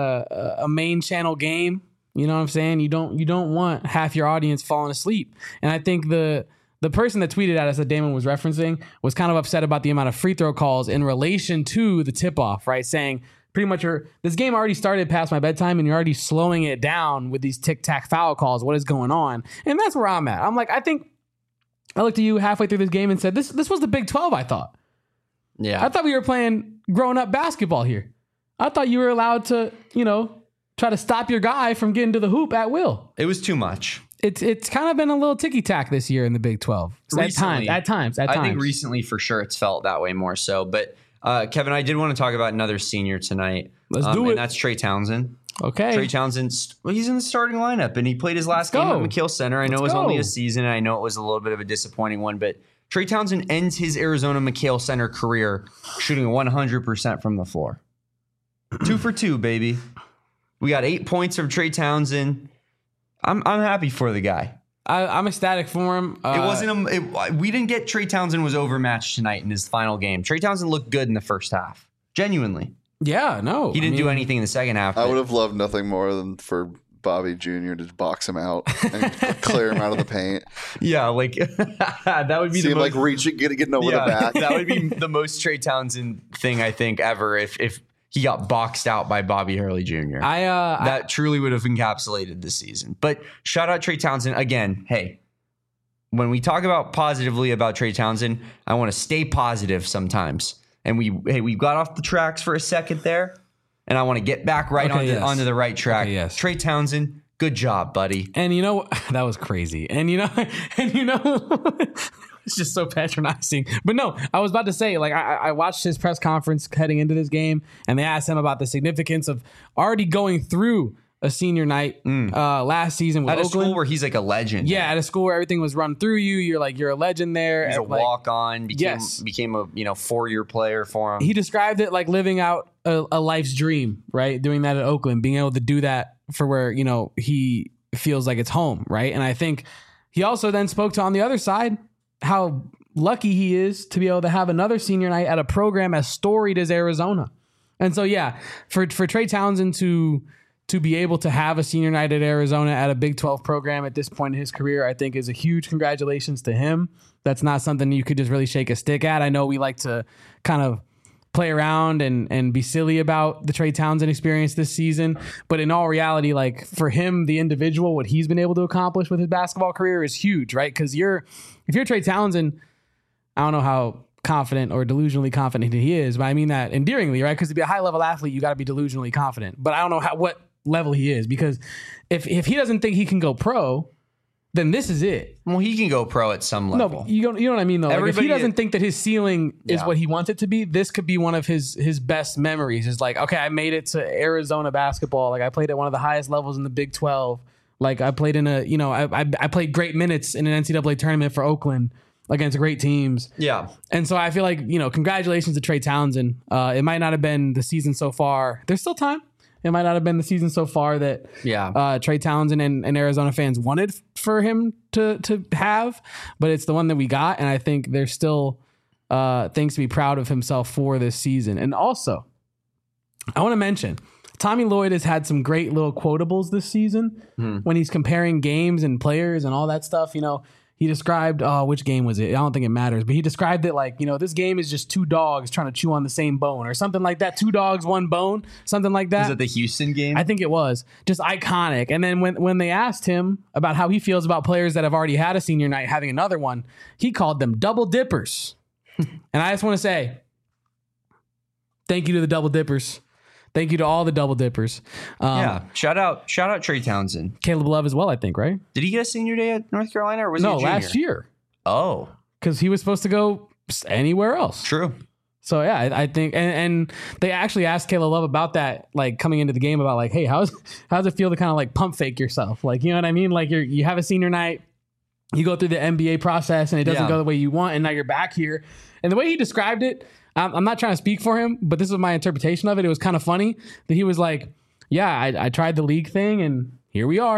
a main channel game. You know what I'm saying? You don't want half your audience falling asleep. And I think the person that tweeted at us that Damon was referencing was kind of upset about the amount of free throw calls in relation to the tip-off, right? Saying pretty much this game already started past my bedtime and you're already slowing it down with these tic-tac foul calls. What is going on? And that's where I'm at. I'm like, I looked at you halfway through this game and said, this was the Big 12, I thought. Yeah. I thought we were playing grown-up basketball here. I thought you were allowed to, try to stop your guy from getting to the hoop at will. It was too much. It's kind of been a little ticky-tack this year in the Big 12. At times. I think recently, for sure, it's felt that way more so. But, Kevin, I did want to talk about another senior tonight. Let's do it. And that's Trey Townsend. Okay. Trey Townsend, he's in the starting lineup, and he played his last game at McKeel Center. I know it was only a season, and I know it was a little bit of a disappointing one, but Trey Townsend ends his Arizona McKeel Center career shooting 100% from the floor. 2 for 2, baby. We got 8 points from Trey Townsend. I'm happy for the guy. I'm ecstatic for him. It wasn't we didn't get Trey Townsend was overmatched tonight in his final game. Trey Townsend looked good in the first half. Genuinely. Yeah, no. He didn't do anything in the second half. I would have loved nothing more than for Bobby Jr. to box him out and clear him out of the paint. Yeah, like that would be See the him most, like reaching, getting over the back. That would be the most Trey Townsend thing I think ever if he got boxed out by Bobby Hurley Jr. That truly would have encapsulated the season. But shout out Trey Townsend again. Hey, when we talk about positively about Trey Townsend, I want to stay positive sometimes. And we got off the tracks for a second there, and I want to get back right onto the right track. Okay, yes. Trey Townsend, good job, buddy. And you know that was crazy. And you know it's just so patronizing. But no, I was about to say, like, I watched his press conference heading into this game, and they asked him about the significance of already going through a senior night last season with At Oakland. a school where he's like a legend. Yeah, at a school where everything was run through you. You're a legend there. He's a walk-on. Yes. Became a 4-year player for him. He described it like living out a life's dream, right? Doing that at Oakland, being able to do that for where, he feels like it's home, right? And I think he also then spoke to, on the other side, how lucky he is to be able to have another senior night at a program as storied as Arizona. And so, yeah, for Trey Townsend to be able to have a senior night at Arizona at a Big 12 program at this point in his career, I think is a huge congratulations to him. That's not something you could just really shake a stick at. I know we like to kind of play around and be silly about the Trey Townsend experience this season. But in all reality, like for him, the individual, what he's been able to accomplish with his basketball career is huge, right? Because if you're Trey Townsend, I don't know how confident or delusionally confident he is, but I mean that endearingly, right? Because to be a high level athlete, you got to be delusionally confident. But I don't know what level he is, because if he doesn't think he can go pro, then this is it. Well, he can go pro at some level. No, you know what I mean, though. Like if he doesn't think that his ceiling is what he wants it to be, this could be one of his best memories. Is like, okay, I made it to Arizona basketball. Like I played at one of the highest levels in the Big 12. Like I played in I played great minutes in an NCAA tournament for Oakland against great teams. Yeah. And so I feel like, congratulations to Trey Townsend. It might not have been the season so far. There's still time. It might not have been the season so far that Trey Townsend and Arizona fans wanted for him to have, but it's the one that we got. And I think there's still things to be proud of himself for this season. And also, I want to mention, Tommy Lloyd has had some great little quotables this season when he's comparing games and players and all that stuff. He described, which game was it? I don't think it matters, but he described it like, this game is just 2 dogs trying to chew on the same bone or something like that. 2 dogs, 1 bone, something like that. Was it the Houston game? I think it was. Just iconic. And then when they asked him about how he feels about players that have already had a senior night having another one, he called them double dippers. And I just want to say, thank you to the double dippers. Thank you to all the double dippers. Shout out Trey Townsend. Caleb Love as well, I think, right? Did he get a senior day at North Carolina, or was he a junior? Last year. Oh. Because he was supposed to go anywhere else. True. So, yeah, I think, and they actually asked Caleb Love about that, like, coming into the game, about, like, hey, how's it feel to kind of, like, pump fake yourself? Like, you know what I mean? Like, you have a senior night, you go through the NBA process, and it doesn't go the way you want, and now you're back here. And the way he described it, I'm not trying to speak for him, but this was my interpretation of it. It was kind of funny that he was like, yeah, I tried the league thing, and here we are.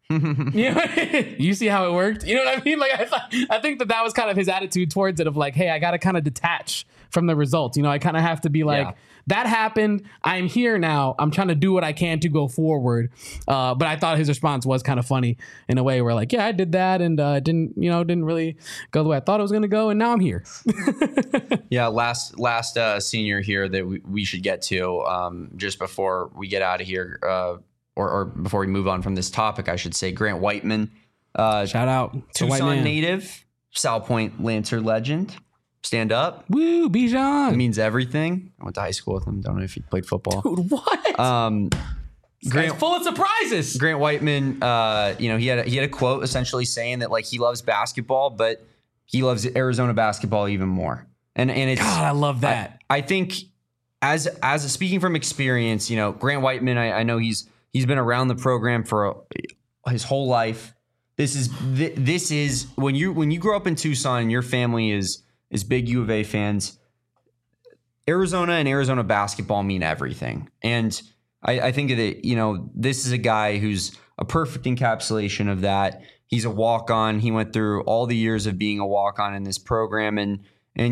You know, you see how it worked? You know what I mean? Like, I think that was kind of his attitude towards it of like, hey, I got to kind of detach from the results. You know, I kind of have to be like, that happened. I'm here now. I'm trying to do what I can to go forward. But I thought his response was kind of funny in a way where like, yeah, I did that and didn't really go the way I thought it was going to go. And now I'm here. Yeah. Last senior here that we should get to just before we get out of here or before we move on from this topic, I should say Grant Whiteman. Shout out to Tucson White Man. native, South Point Lancer legend. Stand up. Woo, Bijan. It means everything. I went to high school with him. Don't know if he played football. Dude, what? Grant, full of surprises. Grant Whiteman, he had a quote essentially saying that like he loves basketball, but he loves Arizona basketball even more. And it's God, I love that. I think as speaking from experience, Grant Whiteman, I know he's been around the program for his whole life. This is when you grow up in Tucson and your family is big U of A fans. Arizona and Arizona basketball mean everything. And I think that, this is a guy who's a perfect encapsulation of that. He's a walk-on. He went through all the years of being a walk-on in this program. And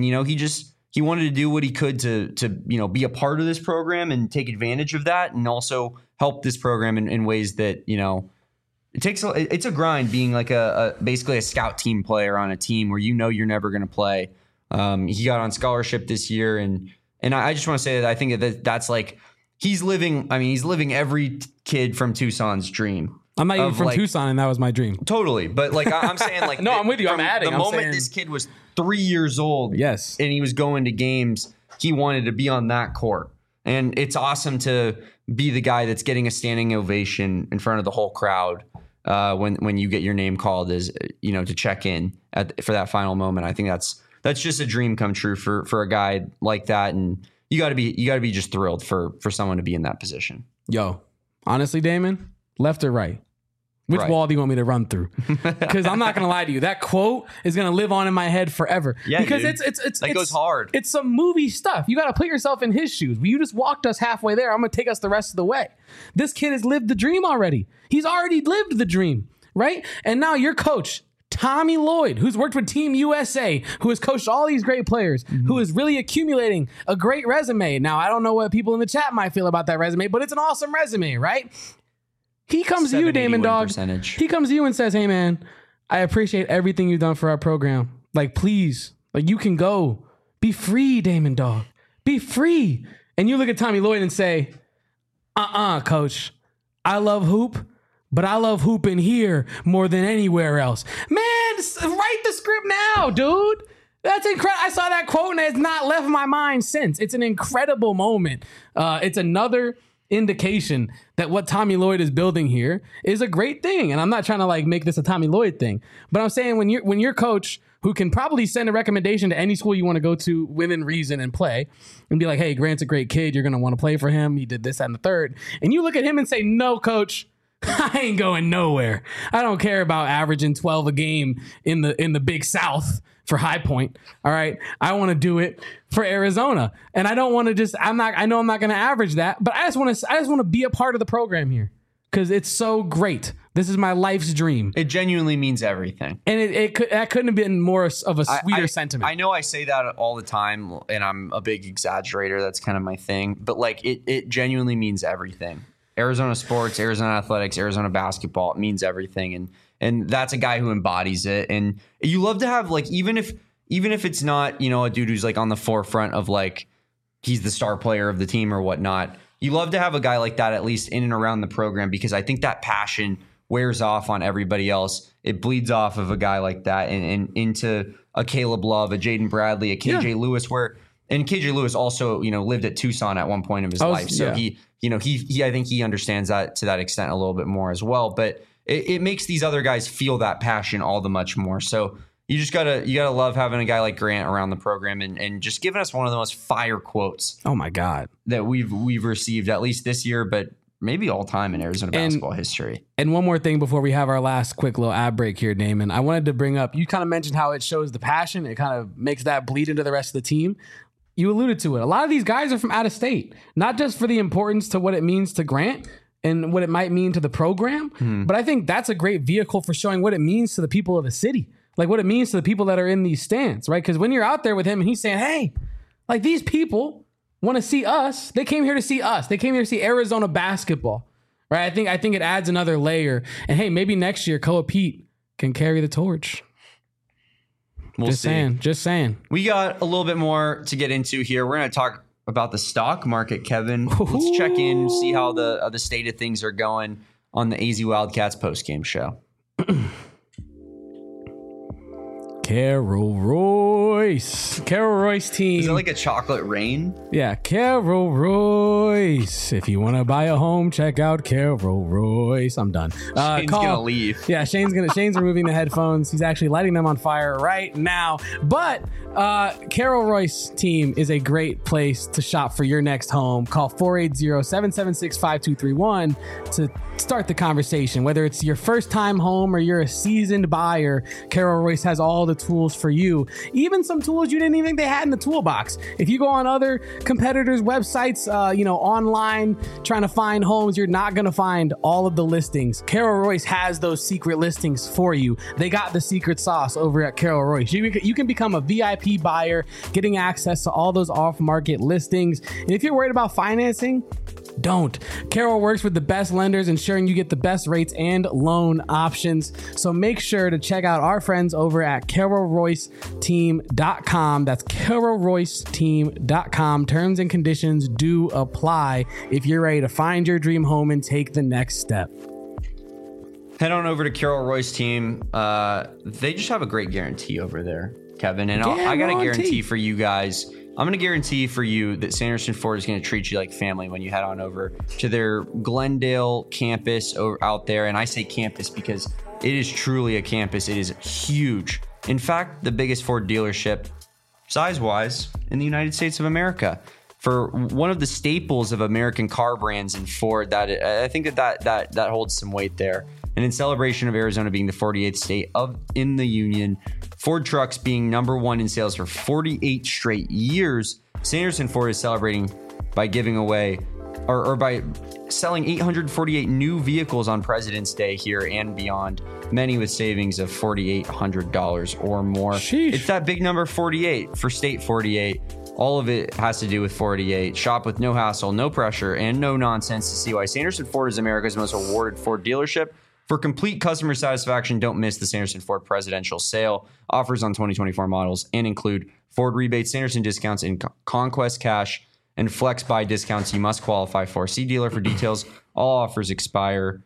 he wanted to do what he could to be a part of this program and take advantage of that and also help this program in ways that, it's a grind being like basically a scout team player on a team where you're never going to play. He got on scholarship this year, and I just want to say that I think that's like he's living every kid from Tucson's dream. I'm not even from Tucson, and that was my dream. Totally, but like I'm saying, like no, I'm with you. I'm adding. The moment this kid was 3 years old, yes, and he was going to games, he wanted to be on that court, and it's awesome to be the guy that's getting a standing ovation in front of the whole crowd. When you get your name called as to check in for that final moment. I think that's just a dream come true for a guy like that, and you got to be just thrilled for someone to be in that position. Yo, honestly, Damon, left or right? Which Right. wall do you want me to run through? Because I'm not gonna lie to you, that quote is gonna live on in my head forever. Yeah, because dude. it's goes hard. It's some movie stuff. You got to put yourself in his shoes. You just walked us halfway there. I'm gonna take us the rest of the way. This kid has lived the dream already. He's already lived the dream, right? And now your coach, Tommy Lloyd, who's worked with Team USA, who has coached all these great players, who is really accumulating a great resume. Now, I don't know what people in the chat might feel about that resume, but it's an awesome resume, right? He comes to you, Damon Dog. Percentage. He comes to you and says, hey, man, I appreciate everything you've done for our program. Like, please, like, you can go. Be free, Damon Dog. Be free. And you look at Tommy Lloyd and say, coach, I love hoop, but I love hooping here more than anywhere else. Man, write the script now, dude. That's incredible. I saw that quote and it's not left my mind since. It's an incredible moment. It's another indication that what Tommy Lloyd is building here is a great thing. And I'm not trying to like make this a Tommy Lloyd thing, but I'm saying when your coach who can probably send a recommendation to any school you want to go to within reason and play and be like, hey, Grant's a great kid. You're going to want to play for him. He did this, that, and the third. And you look at him and say, no, coach, I ain't going nowhere. I don't care about averaging 12 a game in the Big South for High Point. All right. I want to do it for Arizona. And I don't want to I know I'm not going to average that, but I just want to be a part of the program here because it's so great. This is my life's dream. It genuinely means everything. And that couldn't have been more of a sweeter sentiment. I know I say that all the time and I'm a big exaggerator. That's kind of my thing, but like it genuinely means everything. Arizona sports, Arizona athletics, Arizona basketball, it means everything. And that's a guy who embodies it. And you love to have like, even if it's not, a dude who's like on the forefront of like, he's the star player of the team or whatnot. You love to have a guy like that, at least in and around the program, because I think that passion wears off on everybody else. It bleeds off of a guy like that and into a Caleb Love, a Jaden Bradley, a KJ Lewis, and KJ Lewis also, lived at Tucson at one point of his life. So he I think he understands that to that extent a little bit more as well. But it makes these other guys feel that passion all the much more. So you gotta love having a guy like Grant around the program and just giving us one of the most fire quotes. Oh my God, that we've received at least this year, but maybe all time in Arizona basketball history. And one more thing before we have our last quick little ad break here, Damon. I wanted to bring up, you kind of mentioned how it shows the passion. It kind of makes that bleed into the rest of the team. You alluded to it. A lot of these guys are from out of state, not just for the importance to what it means to Grant and what it might mean to the program. But I think that's a great vehicle for showing what it means to the people of the city, like what it means to the people that are in these stands, right? Because when you're out there with him and he's saying, hey, like these people want to see us. They came here to see us. They came here to see Arizona basketball, right? I think it adds another layer. And hey, maybe next year Koa Pete can carry the torch. We'll see. Just saying. We got a little bit more to get into here. We're going to talk about the stock market, Kevin. Let's check in, see how the state of things are going on the AZ Wildcats postgame show. Carol Royce team. Is it like a chocolate rain? Yeah, Carol Royce. If you want to buy a home, check out Carol Royce. I'm done. Shane's gonna leave. Yeah, Shane's removing the headphones. He's actually lighting them on fire right now. But Carol Royce team is a great place to shop for your next home. Call 480-776-5231 to start the conversation. Whether it's your first time home or you're a seasoned buyer, Carol Royce has all the tools for you. Even some tools you didn't even think they had in the toolbox. If you go on other competitors' websites, online trying to find homes, you're not going to find all of the listings. Carol Royce has those secret listings for you. They got the secret sauce over at Carol Royce. You can become a VIP buyer, getting access to all those off-market listings. And if you're worried about financing, don't. Carol works with the best lenders, ensuring you get the best rates and loan options. So make sure to check out our friends over at CarolRoyceTeam.com. That's CarolRoyceTeam.com. Terms and conditions do apply if you're ready to find your dream home and take the next step. Head on over to Carol Royce Team. They just have a great guarantee over there, Kevin. And I got a guarantee for you guys. I'm going to guarantee for you that Sanderson Ford is going to treat you like family when you head on over to their Glendale campus out there. And I say campus because it is truly a campus. It is huge. In fact, the biggest Ford dealership, size-wise, in the United States of America. For one of the staples of American car brands in Ford, I think that holds some weight there. And in celebration of Arizona being the 48th state in the union, Ford trucks being number one in sales for 48 straight years, Sanderson Ford is celebrating by giving away or by selling 848 new vehicles on President's Day here and beyond, many with savings of $4,800 or more. Sheesh. It's that big number 48 for State 48. All of it has to do with 48. Shop with no hassle, no pressure, and no nonsense to see why Sanderson Ford is America's most awarded Ford dealership. For complete customer satisfaction, don't miss the Sanderson Ford presidential sale. Offers on 2024 models and include Ford rebates, Sanderson discounts, and Conquest Cash and Flex Buy discounts you must qualify for. See dealer for details. All offers expire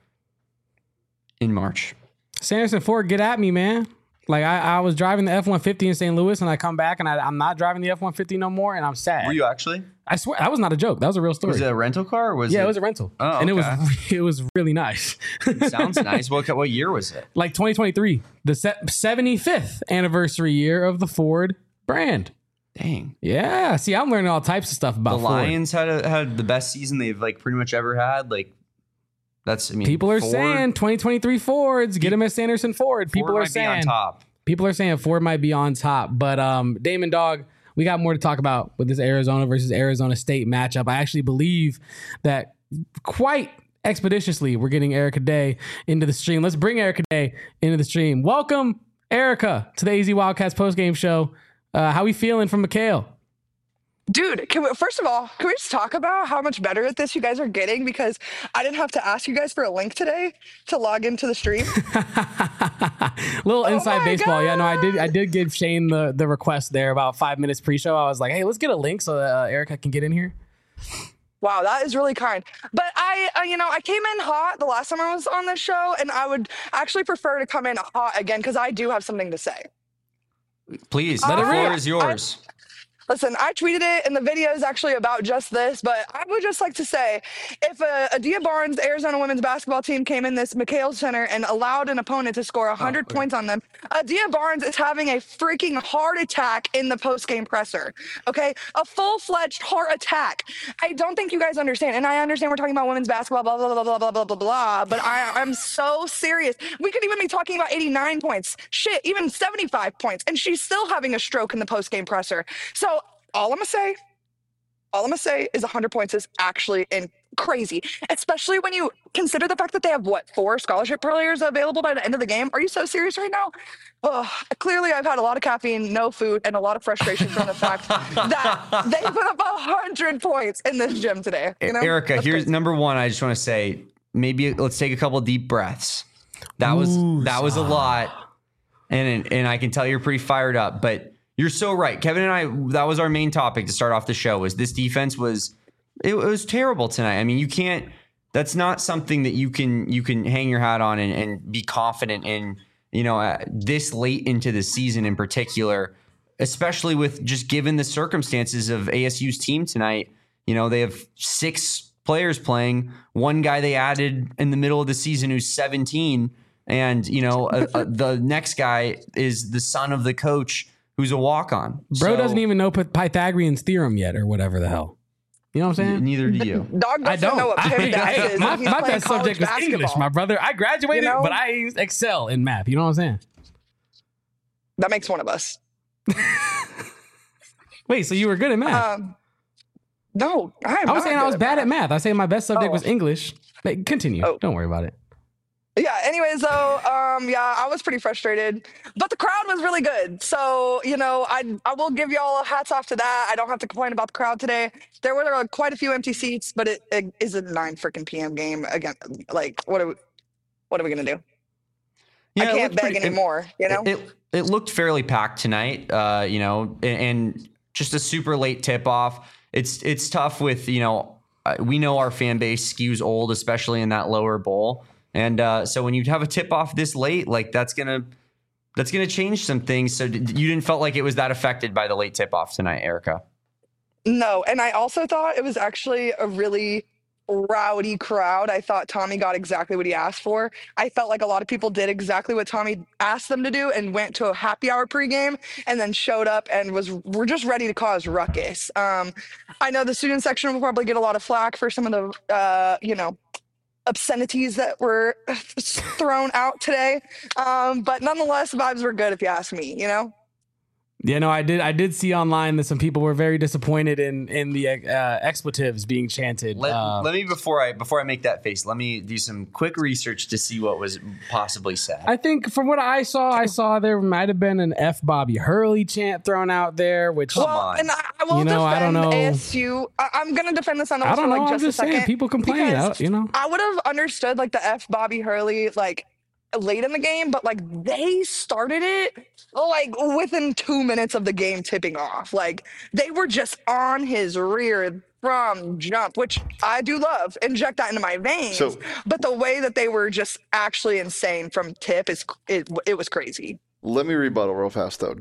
in March. Sanderson Ford, get at me, man. Like I was driving the F-150 in St. Louis and I come back and I'm not driving the F-150 no more and I'm sad. Were you actually? I swear, that was not a joke. That was a real story. Was it a rental car? Or was it was a rental. Oh, okay. And it was really nice. Sounds nice. What year was it? Like 2023, the 75th anniversary year of the Ford brand. Dang. Yeah. See, I'm learning all types of stuff about the Ford. Lions had the best season they've pretty much ever had. People are Ford, saying 2023 Fords, get them at Sanderson Ford. People are saying on top. People are saying Ford might be on top, but Damon Dog, we got more to talk about with this Arizona versus Arizona State matchup. I actually believe that quite expeditiously we're getting Erica Day into the stream. Let's bring Erica Day into the stream. Welcome, Erica, to the AZ Wildcats postgame show. How we feeling from McHale? Dude, first of all, can we just talk about how much better at this you guys are getting? Because I didn't have to ask you guys for a link today to log into the stream. Little inside baseball. God. Yeah, no, I did give Shane the request there about 5 minutes pre-show. I was like, hey, let's get a link so that Erica can get in here. Wow, that is really kind. But I came in hot the last time I was on this show, and I would actually prefer to come in hot again because I do have something to say. Please, the floor is yours. Listen, I tweeted it, and the video is actually about just this, but I would just like to say, if Adia Barnes, the Arizona women's basketball team, came in this McHale Center and allowed an opponent to score 100 points on them, Adia Barnes is having a freaking heart attack in the postgame presser, okay? A full-fledged heart attack. I don't think you guys understand, and I understand we're talking about women's basketball, blah, blah, blah, blah, blah, blah, blah, blah, but I'm so serious. We could even be talking about 89 points, shit, even 75 points, and she's still having a stroke in the postgame presser. So all I'm going to say All I'm gonna say is 100 points is actually crazy, especially when you consider the fact that they have 4 scholarship players available by the end of the game. Are you so serious right now? Clearly, I've had a lot of caffeine, no food, and a lot of frustration from the fact that they put up 100 points in this gym today. You know? Erica, That's here's crazy. number one. I just want to say, maybe let's take a couple deep breaths. That was a lot, and I can tell you're pretty fired up. But you're so right, Kevin and I. That was our main topic to start off the show. Was this defense was terrible tonight. I mean, you can't. That's not something that you can hang your hat on and be confident in. You know, this late into the season in particular, especially with just given the circumstances of ASU's team tonight. You know, they have 6 players playing. One guy they added in the middle of the season who's 17, and you know the next guy is the son of the coach who's a walk-on. Bro doesn't even know Pythagorean's theorem yet, or whatever the hell. You know what I'm saying? Neither do you. Dog I doesn't don't. know what PIMDAS is. My and he's playing best college subject was basketball. English, my brother. I graduated, You know? but I excel in math. You know what I'm saying? That makes one of us. Wait, so you were good at math? No, I was saying I was bad at math. I was saying my best subject was English. But continue. Oh. Don't worry about it. Yeah, anyways, though, I was pretty frustrated, but the crowd was really good. So, you know, I will give y'all hats off to that. I don't have to complain about the crowd today. There were quite a few empty seats, but it is a 9 freaking p.m. game. Again, like, what are we going to do? Yeah, I it can't looked beg pretty- anymore, you know? It looked fairly packed tonight, you know, and just a super late tip off. It's tough with, you know, we know our fan base skews old, especially in that lower bowl. And so when you have a tip off this late, like that's gonna change some things. So you didn't felt like it was that affected by the late tip off tonight, Erica? No, and I also thought it was actually a really rowdy crowd. I thought Tommy got exactly what he asked for. I felt like a lot of people did exactly what Tommy asked them to do and went to a happy hour pregame and then showed up and were just ready to cause ruckus. I know the student section will probably get a lot of flack for some of the, you know, obscenities that were thrown out today. But nonetheless, vibes were good if you ask me, you know? Yeah, no, I did see online that some people were very disappointed in the expletives being chanted. Let me before I make that face, let me do some quick research to see what was possibly said. I think from what I saw there might have been an F Bobby Hurley chant thrown out there, which Come Well, on. and I will You know, I don't defend know. ASU. I'm going to defend this on I don't for know. like I'm just a just saying second. people complain. because You know, I would have understood like the F Bobby Hurley like late in the game, but like they started it like within 2 minutes of the game tipping off. Like they were just on his rear from jump, which I do love. Inject that into my veins. So- but the way that they were just actually insane from tip it was crazy. Let me rebuttal real fast, though.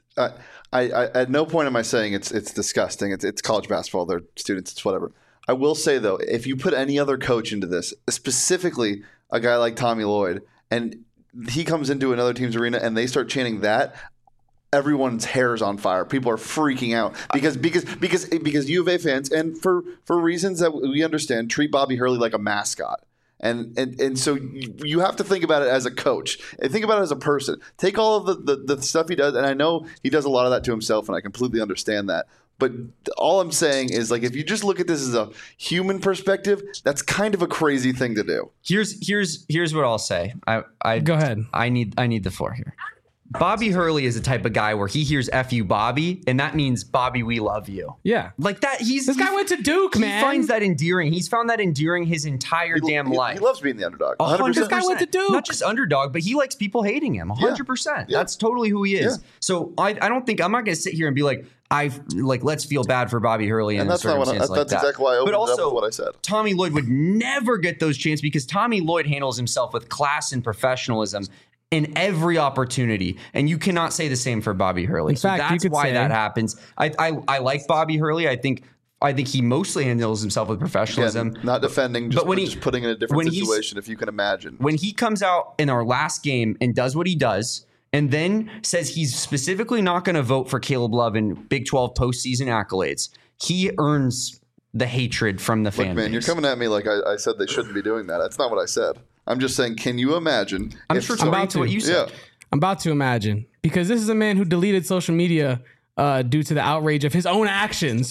I at no point am I saying it's disgusting. It's college basketball. They're students. It's whatever. I will say though, if you put any other coach into this, specifically a guy like Tommy Lloyd, and he comes into another team's arena and they start chanting that, everyone's hair is on fire. People are freaking out because U of A fans, and for reasons that we understand, treat Bobby Hurley like a mascot. And so you have to think about it as a coach and think about it as a person. Take all of the stuff he does, and I know he does a lot of that to himself, and I completely understand that. But all I'm saying is, like, if you just look at this as a human perspective, that's kind of a crazy thing to do. Here's what I'll say. I go ahead. I need the floor here. Bobby Hurley is the type of guy where he hears "F you, Bobby," and that means "Bobby, we love you." Yeah, Like that. this guy went to Duke, man. He finds that endearing. He's found that endearing his entire damn life. He loves being the underdog. 100%. This guy went to Duke. Not just underdog, but he likes people hating him. 100%. Yeah. That's totally who he is. Yeah. So I don't think I'm not going to sit here and be like, let's feel bad for Bobby Hurley And in that's not what circumstance like that's that. exactly why I opened But it up also, with what I said. Tommy Lloyd would never get those chances because Tommy Lloyd handles himself with class and professionalism in every opportunity, and you cannot say the same for Bobby Hurley. In fact, you that's could why say- that happens. I like Bobby Hurley. I think he mostly handles himself with professionalism. Again, not defending, just, But when just putting in a different when he's- situation, if you can imagine. When he comes out in our last game and does what he does, and then says he's specifically not going to vote for Caleb Love in Big 12 postseason accolades, he earns the hatred from the Look, fan man, base. you're coming at me like I said they shouldn't be doing that. That's not what I said. I'm just saying, can you imagine? I'm if sure some- to what you said. Yeah. I'm about to imagine, because this is a man who deleted social media due to the outrage of his own actions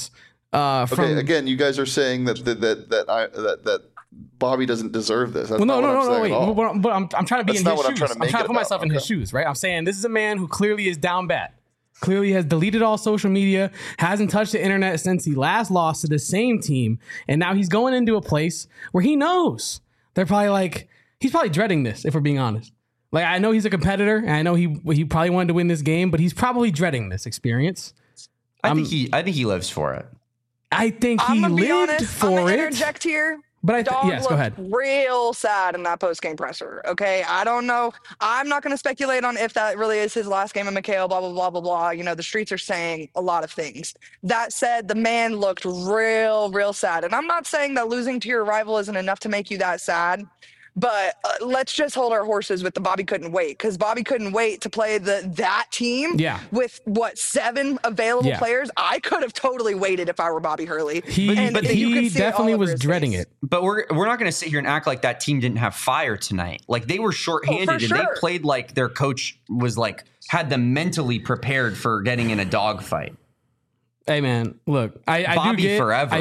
Okay, again, you guys are saying that Bobby doesn't deserve this. That's Well, not what I'm saying wait. at all. But I'm trying to be That's in not his what I'm shoes. trying to I'm make trying it to put about. myself in his Okay. shoes, right? I'm saying this is a man who clearly is down bad. Clearly has deleted all social media, hasn't touched the internet since he last lost to the same team, and now he's going into a place where he knows they're probably like he's probably dreading this. If we're being honest, like I know he's a competitor, and I know he probably wanted to win this game, but he's probably dreading this experience. I think he lives for it. I think I'm he gonna be lived honest. I'm for gonna it. interject here. But Dog yes, go looked ahead. real sad in that post-game presser. Okay, I don't know. I'm not going to speculate on if that really is his last game of McHale. Blah blah blah blah blah. You know, the streets are saying a lot of things. That said, the man looked real sad. And I'm not saying that losing to your rival isn't enough to make you that sad. But let's just hold our horses with the Bobby couldn't wait, because Bobby couldn't wait to play that team Yeah. with what 7 available Yeah. players. I could have totally waited if I were Bobby Hurley. He And you could he see it all definitely over was his dreading face. it. But we're not going to sit here and act like that team didn't have fire tonight. Like they were shorthanded and they sure. played like their coach was like had them mentally prepared for getting in a dogfight. Hey man, look, I Bobby do get, forever.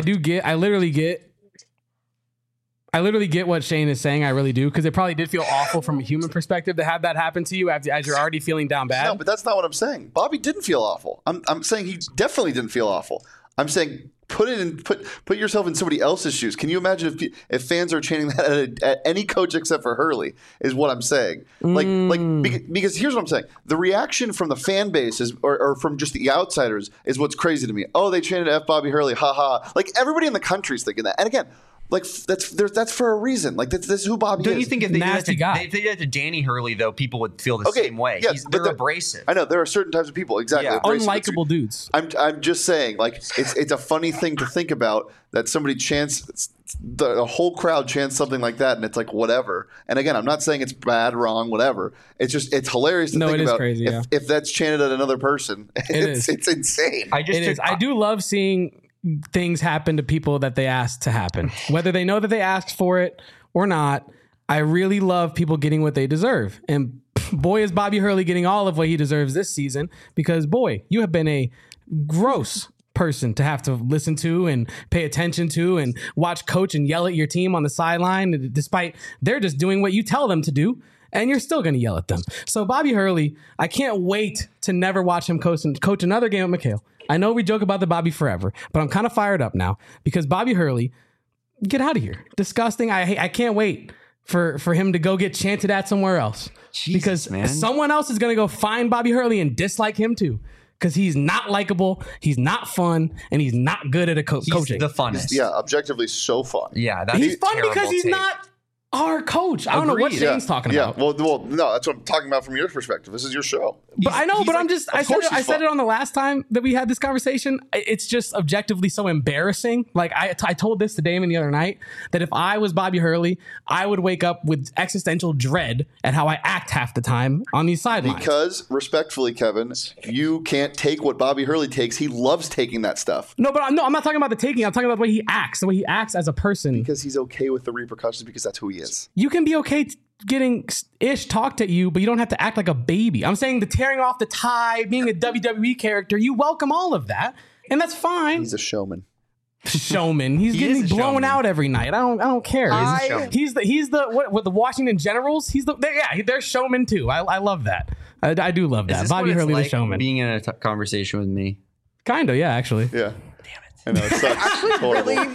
I literally get what Shane is saying. I really do, because it probably did feel awful from a human perspective to have that happen to you as you're already feeling down bad. No, but that's not what I'm saying. Bobby didn't feel awful. I'm saying he definitely didn't feel awful. I'm saying put yourself in somebody else's shoes. Can you imagine if fans are chanting that at any coach except for Hurley? Is what I'm saying. Because here's what I'm saying. The reaction from the fan base is, or from just the outsiders, is what's crazy to me. Oh, they chanted F Bobby Hurley, haha. Like everybody in the country's thinking that. And again, like that's for a reason. Like this is who Bobby Don't is. you think if they did that Nasty guy. if they did that to Danny Hurley, though, people would feel the same way? Yeah, They're but abrasive. I know there are certain types of people. Exactly. Yeah. abrasive. Unlikable dudes. I'm just saying, like it's a funny thing to think about that somebody chants the whole crowd chants something like that, and it's like whatever. And again, I'm not saying it's bad, wrong, whatever. It's just it's hilarious to No, think it is about. crazy, yeah. If that's chanted at another person, is. it's insane. It is. I do love seeing things happen to people that they asked to happen, whether they know that they asked for it or not. I really love people getting what they deserve. And boy, is Bobby Hurley getting all of what he deserves this season, because boy, you have been a gross person to have to listen to and pay attention to and watch coach and yell at your team on the sideline, despite they're just doing what you tell them to do. And you're still going to yell at them. So Bobby Hurley, I can't wait to never watch him coach another game at McHale. I know we joke about the Bobby forever, but I'm kind of fired up now because Bobby Hurley, get out of here. Disgusting. I can't wait for him to go get chanted at somewhere else. Jesus, because man. someone else is going to go find Bobby Hurley and dislike him too. Because he's not likable, he's not fun, and he's not good at He's coaching. the funnest. Yeah, objectively so fun. Yeah, that's He's a fun terrible because he's take. not our coach. I don't know what Agreed. Shane's talking about. Well, no, that's what I'm talking about from your perspective. This is your show. But I know, he's but I'm like- just, of I course said he's it fun. on the last time that we had this conversation. It's just objectively so embarrassing. Like I told this to Damon the other night that if I was Bobby Hurley, I would wake up with existential dread at how I act half the time on these sidelines. Because, respectfully, Kevin, you can't take what Bobby Hurley takes. He loves taking that stuff No, but I'm not talking about the taking. I'm talking about the way he acts, as a person. because he's okay with the repercussions because that's who he is. You can be okay getting ish talked at you, but you don't have to act like a baby. I'm saying the tearing off the tie, being a WWE character, you welcome all of that, and that's fine. He's a showman. Showman. He's He getting is a blown showman. out every night. I don't care. I- showman. He's the what the Washington Generals. They're showmen too. I love that. I do love Is that. this Bobby what it's Hurley like the showman. being in a conversation with me? Kinda, yeah, actually. Yeah. I know, it sucks. It's horrible. Really,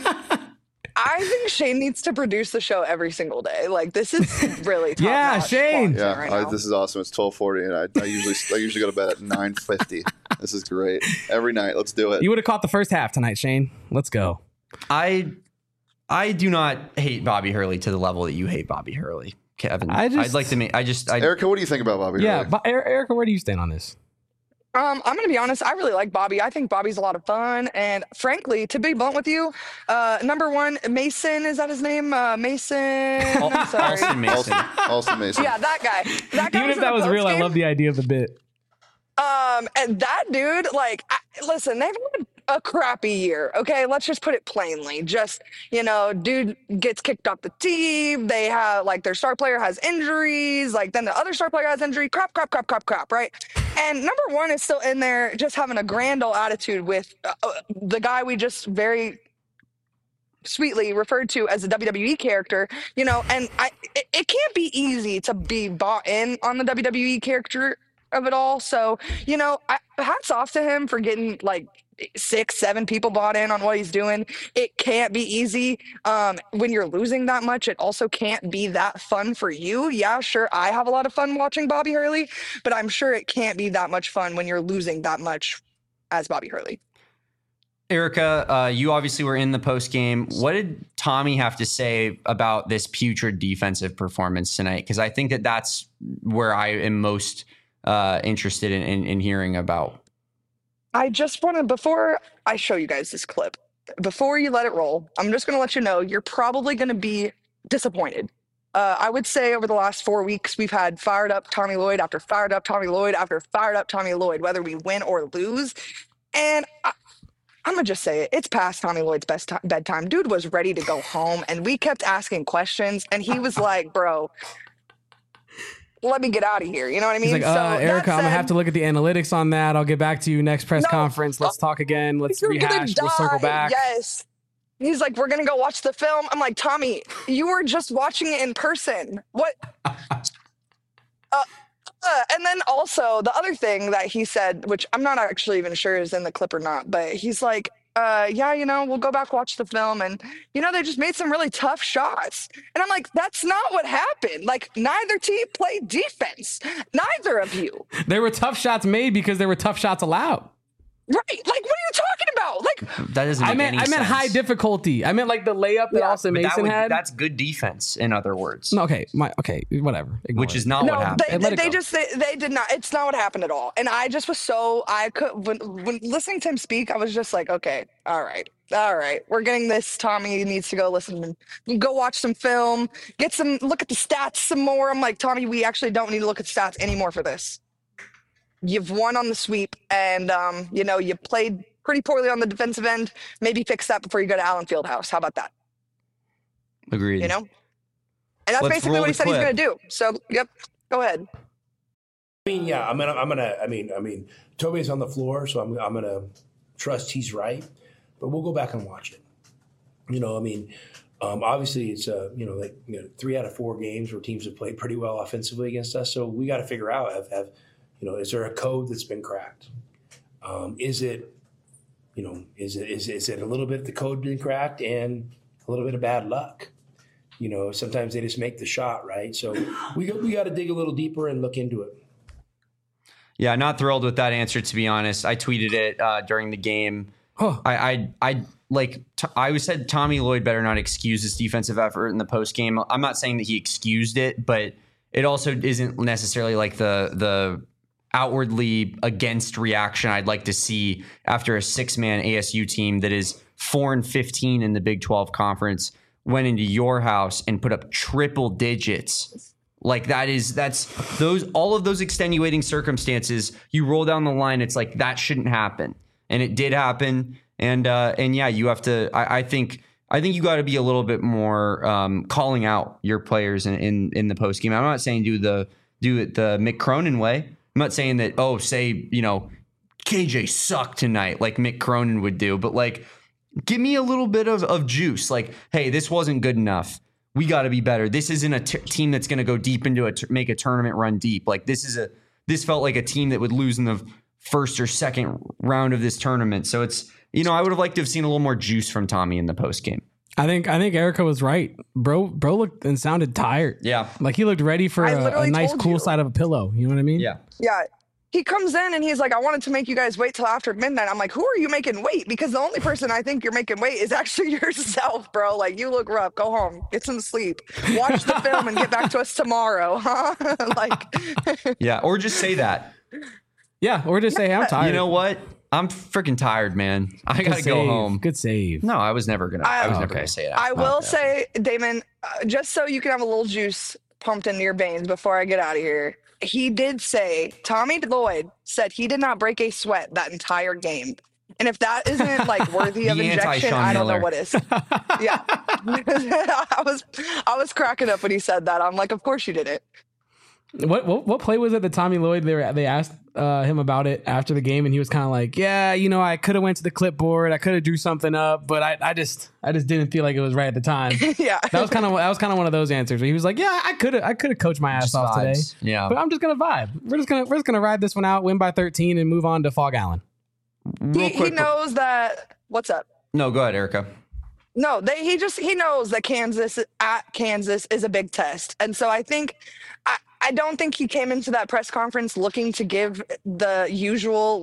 I think Shane needs to produce the show every single day. Like this is really top Yeah, notch Shane. content Yeah, right now. this is awesome. It's 12:40, and I usually go to bed at 9:50. This is great. Every night, let's do it. You would have caught the first half tonight, Shane. Let's go. I do not hate Bobby Hurley to the level that you hate Bobby Hurley, Kevin. I'd like to make. Erica, what do you think about Bobby Yeah, Hurley? but Erica, where do you stand on this? I'm gonna be honest. I really like Bobby. I think Bobby's a lot of fun, and frankly, to be blunt with you, number one, Mason, is that his name? Mason. Sorry. Alston Mason. Alston Mason. Yeah, that guy. That guy Even if in that the was real, I postgame. love the idea of the bit. And that dude, like, listen, they've had a crappy year. Okay, let's just put it plainly. Just, dude gets kicked off the team. They have, like, their star player has injuries. Like, then the other star player has injury. Crap, right? And number one is still in there, just having a grand old attitude with the guy we just very sweetly referred to as a WWE character, and it can't be easy to be bought in on the WWE character of it all. So, hats off to him for getting like 6-7 people bought in on what he's doing. It can't be easy. When you're losing that much, it also can't be that fun for you. Yeah, sure, I have a lot of fun watching Bobby Hurley, but I'm sure it can't be that much fun when you're losing that much as Bobby Hurley. Erica, you obviously were in the post game. What did Tommy have to say about this putrid defensive performance tonight? Because I think that's where I am most interested in hearing about. I just want to, before I show you guys this clip, before you let it roll, I'm just going to let you know you're probably going to be disappointed. I would say over the last 4 weeks, we've had fired up Tommy Lloyd after fired up Tommy Lloyd after fired up Tommy Lloyd, whether we win or lose. And I'm going to just say it. It's past Tommy Lloyd's bedtime. Dude was ready to go home, and we kept asking questions, and he was like, bro, let me get out of here. You know what I mean? He's like, Erica, I'm going to have to look at the analytics on that. I'll get back to you next press conference. Let's talk again. Let's rehash. We'll circle back. Yes. He's like, we're going to go watch the film. I'm like, Tommy, you were just watching it in person. What? And then also the other thing that he said, which I'm not actually even sure is in the clip or not, but he's like, yeah, we'll go back, watch the film. And, they just made some really tough shots. And I'm like, that's not what happened. Like, neither team played defense. Neither of you. There were tough shots made because there were tough shots allowed. Right. Like, what are you talking about? Like, that doesn't make any sense. I meant high difficulty. I meant like the layup that Austin Mason had. That's good defense, in other words. No, okay, whatever. Ignore Which is not what happened. They did not. It's not what happened at all. And I just was when listening to him speak, I was just like, okay, all right. We're getting this. Tommy needs to go go watch some film, look at the stats some more. I'm like, Tommy, we actually don't need to look at stats anymore for this. You've won on the sweep, and you played pretty poorly on the defensive end. Maybe fix that before you go to Allen Fieldhouse. How about that? Agreed. And that's basically what he said he's going to do. So, yep, go ahead. I mean, yeah, I'm gonna. Toby's on the floor, so I'm gonna trust he's right. But we'll go back and watch it. Obviously it's 3 out of 4 games where teams have played pretty well offensively against us. So we got to figure out is there a code that's been cracked? Is it a little bit the code been cracked and a little bit of bad luck? Sometimes they just make the shot, right? So we got to dig a little deeper and look into it. Yeah, not thrilled with that answer, to be honest. I tweeted it during the game. Huh. I said Tommy Lloyd better not excuse his defensive effort in the post game. I'm not saying that he excused it, but it also isn't necessarily like the outwardly against reaction I'd like to see after a 6-man ASU team that is 4-15 in the Big 12 conference went into your house and put up triple digits. Like all of those extenuating circumstances, you roll down the line, it's like that shouldn't happen. And it did happen. And yeah, you have to, I think you got to be a little bit more calling out your players in the post game. I'm not saying do it the Mick Cronin way. I'm not saying that, KJ sucked tonight like Mick Cronin would do, but like, give me a little bit of juice. Like, hey, this wasn't good enough. We got to be better. This isn't a team that's going to go deep into make a tournament run deep. Like this felt like a team that would lose in the first or second round of this tournament. So it's, I would have liked to have seen a little more juice from Tommy in the post game. I think Erica was right. Bro looked and sounded tired. Yeah. Like he looked ready for a nice cool side of a pillow. You know what I mean? Yeah. Yeah. He comes in and he's like, I wanted to make you guys wait till after midnight. I'm like, who are you making wait? Because the only person I think you're making wait is actually yourself, bro. Like, you look rough. Go home. Get some sleep. Watch the film and get back to us tomorrow, huh? Yeah, or just say that. Yeah, or just say, I'm tired. You know what? I'm freaking tired, man. I got to go home. Good save. No, I was never going to say that. I will say, Damon, just so you can have a little juice pumped into your veins before I get out of here. He did say, Tommy Lloyd said he did not break a sweat that entire game. And if that isn't like worthy of injection, I don't know what is. Yeah. I was cracking up when he said that. I'm like, of course you didn't. What play was it that Tommy Lloyd, they asked him about it after the game, and he was kind of like, yeah, I could have went to the clipboard, I could have drew something up, but I just didn't feel like it was right at the time. Yeah, that was kind of one of those answers where he was like, yeah, I could have coached my ass off today. Yeah, but I'm just gonna vibe. We're just gonna ride this one out, win by 13, and move on to Fog Allen. He knows that. What's up? No, go ahead, Erica. No, he knows that Kansas is a big test, and so I think. I don't think he came into that press conference looking to give the usual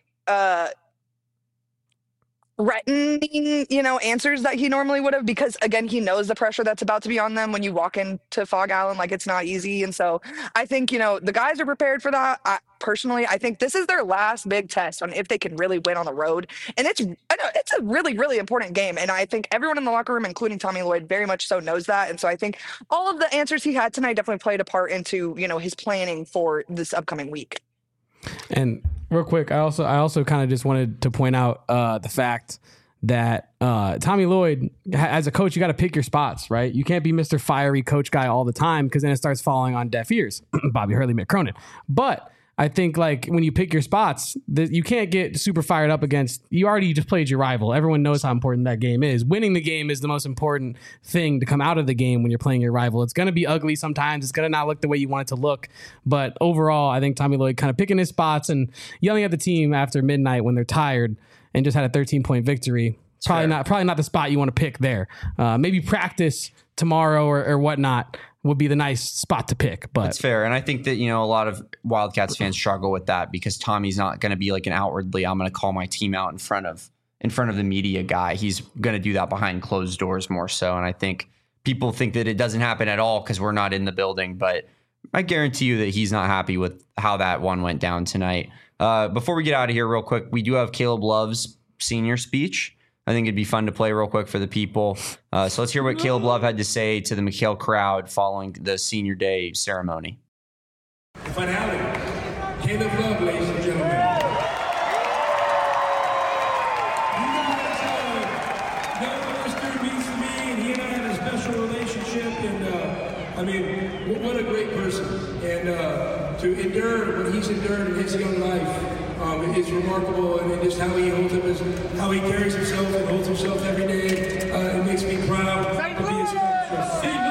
threatening, answers that he normally would have, because again, he knows the pressure that's about to be on them when you walk into Fog Allen. Like, it's not easy. And so I think, the guys are prepared for that. Personally, I think this is their last big test on if they can really win on the road. And it's a really, really important game. And I think everyone in the locker room, including Tommy Lloyd, very much so knows that. And so I think all of the answers he had tonight definitely played a part into, his planning for this upcoming week. And real quick, I also kind of just wanted to point out the fact that Tommy Lloyd, as a coach, you got to pick your spots, right? You can't be Mr. Fiery coach guy all the time, because then it starts falling on deaf ears. Bobby Hurley, Mick Cronin. But I think, like, when you pick your spots, you can't get super fired up against. You already just played your rival. Everyone knows how important that game is. Winning the game is the most important thing to come out of the game when you're playing your rival. It's going to be ugly sometimes. It's going to not look the way you want it to look. But overall, I think Tommy Lloyd kind of picking his spots and yelling at the team after midnight when they're tired and just had a 13-point victory. Probably not the spot you want to pick there. Maybe practice tomorrow or whatnot would be the nice spot to pick. But that's fair. And I think that, a lot of Wildcats fans struggle with that, because Tommy's not going to be like an outwardly, I'm going to call my team out in front of the media guy. He's going to do that behind closed doors more so. And I think people think that it doesn't happen at all because we're not in the building, but I guarantee you that he's not happy with how that one went down tonight. Before we get out of here real quick, we do have Caleb Love's senior speech. I think it'd be fun to play real quick for the people. So let's hear what Caleb Love had to say to the McHale crowd following the senior day ceremony. Finale, Caleb Love, ladies and gentlemen. You guys know what this dude means to me, and he and I had a special relationship, and what a great person. And to endure what he's endured in his young life, it's remarkable, and just how he how he carries himself and holds himself every day. It makes me proud to be his friend.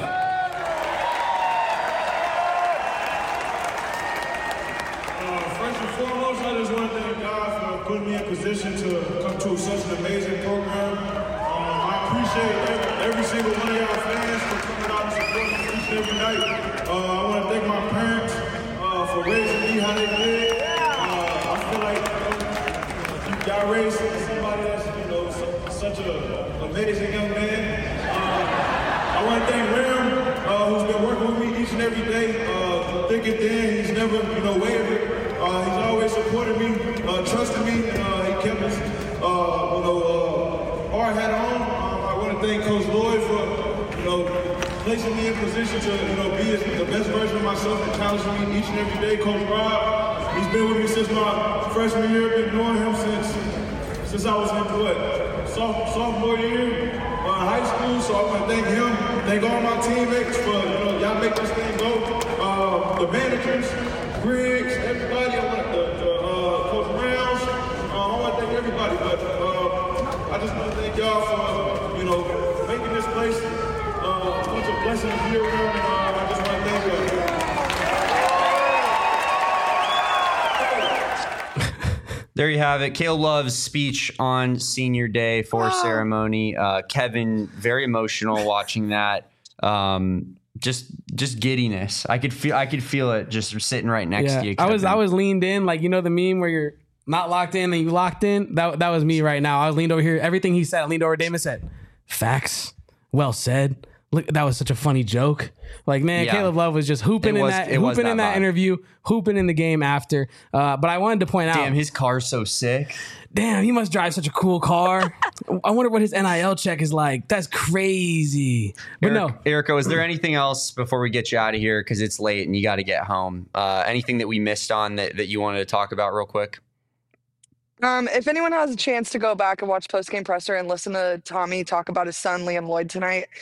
First and foremost, I just want to thank God for putting me in position to come to such an amazing program. I appreciate every single one of y'all fans for coming out and supporting me each and every night. I want to thank my parents for raising me how they did. Y'all raised somebody that's, such an amazing young man. I want to thank Ram, who's been working with me each and every day, thick and thin. He's never, wavered. He's always supported me, trusted me, and he kept us, hard hat on. I want to thank Coach Lloyd for, placing me in position to, be the best version of myself and challenging me each and every day. Coach Rob, he's been with me since my freshman year. Been knowing him since I was in sophomore year in high school. So I want to thank him, thank all my teammates for y'all make this thing go. The managers, Griggs, everybody. I want Coach Rounds. I want to thank everybody, but I just want to thank y'all for making this place such a blessing to be around. And I just want to thank y'all. There you have it. Caleb Love's speech on senior day for ceremony. Kevin, very emotional watching that. Just giddiness. I could feel it just sitting right next to you, Kevin. I was leaned in, like, the meme where you're not locked in and you locked in. That was me right now. I was leaned over here. Everything he said, I leaned over to Damon, said, facts. Well said. Look, that was such a funny joke. Like, man, yeah. Caleb Love was just hooping in that interview, hooping in the game after. But I wanted to point out, damn, his car's so sick. Damn, he must drive such a cool car. I wonder what his NIL check is like. That's crazy. But Erica, is there anything else before we get you out of here, because it's late and you got to get home? Anything that we missed on that you wanted to talk about real quick? If anyone has a chance to go back and watch Postgame Presser and listen to Tommy talk about his son, Liam Lloyd, tonight,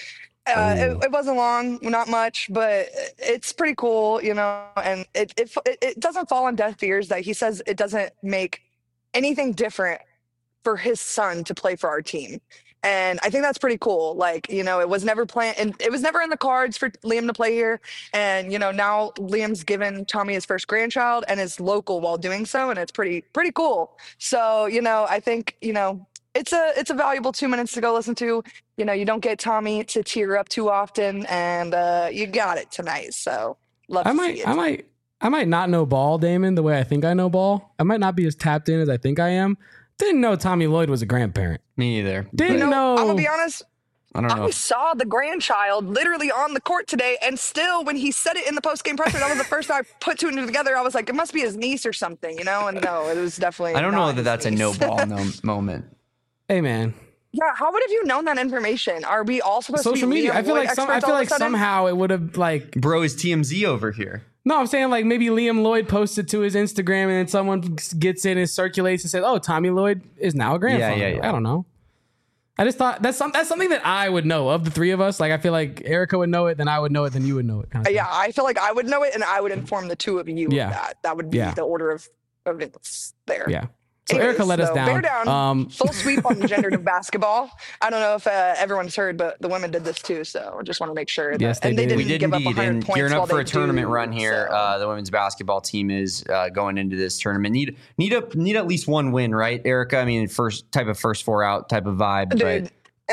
It wasn't long, not much, but it's pretty cool, and it doesn't fall on deaf ears that he says it doesn't make anything different for his son to play for our team. And I think that's pretty cool. Like, it was never planned, and it was never in the cards for Liam to play here. And, now Liam's given Tommy his first grandchild and is local while doing so. And it's pretty cool. So, I think, it's a valuable 2 minutes to go listen to. You don't get Tommy to tear up too often, and you got it tonight. So love to see it. I might not know ball, Damon, the way I think I know ball. I might not be as tapped in as I think I am. Didn't know Tommy Lloyd was a grandparent. Me either. Didn't know. I'm gonna be honest. I don't know. I saw the grandchild literally on the court today, and still, when he said it in the post-game presser, that was the first time I put two and two together. I was like, it must be his niece or something, And no, it was definitely. I don't know that that's niece. a no ball moment. Hey, man. Yeah, how would have you known that information? Are we all supposed Social to be media. Liam I feel Lloyd like experts somehow it would have Bro is TMZ over here. No, I'm saying like maybe Liam Lloyd posted to his Instagram and then someone gets in and circulates and says, "Oh, Tommy Lloyd is now a grandfather." Yeah. I don't know. I just thought that's something that I would know of the three of us. Like I feel like Erica would know it, then I would know it, then you would know it. Kind of Yeah, I feel like I would know it, and I would inform the two of you Yeah. of that. That would be the order of events there. Yeah. So Anyways, Erica let us down. Bear down. Full sweep on gendered basketball. I don't know if everyone's heard, but the women did this too. So I just want to make sure. Yes, they did. Didn't We did give indeed. up 100 And points gearing while up for they a tournament do, run here. so. The women's basketball team is going into this tournament. Need at least one win, right, Erica? I mean, first four out type of vibe. Dude,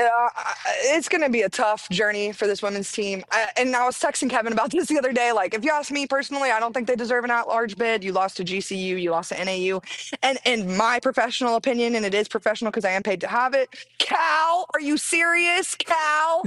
it's going to be a tough journey for this women's team. And I was texting Kevin about this the other day. Like, if you ask me personally, I don't think they deserve an at-large bid. You lost to GCU, you lost to NAU. And in my professional opinion, and it is professional because I am paid to have it, Cal, are you serious, Cal?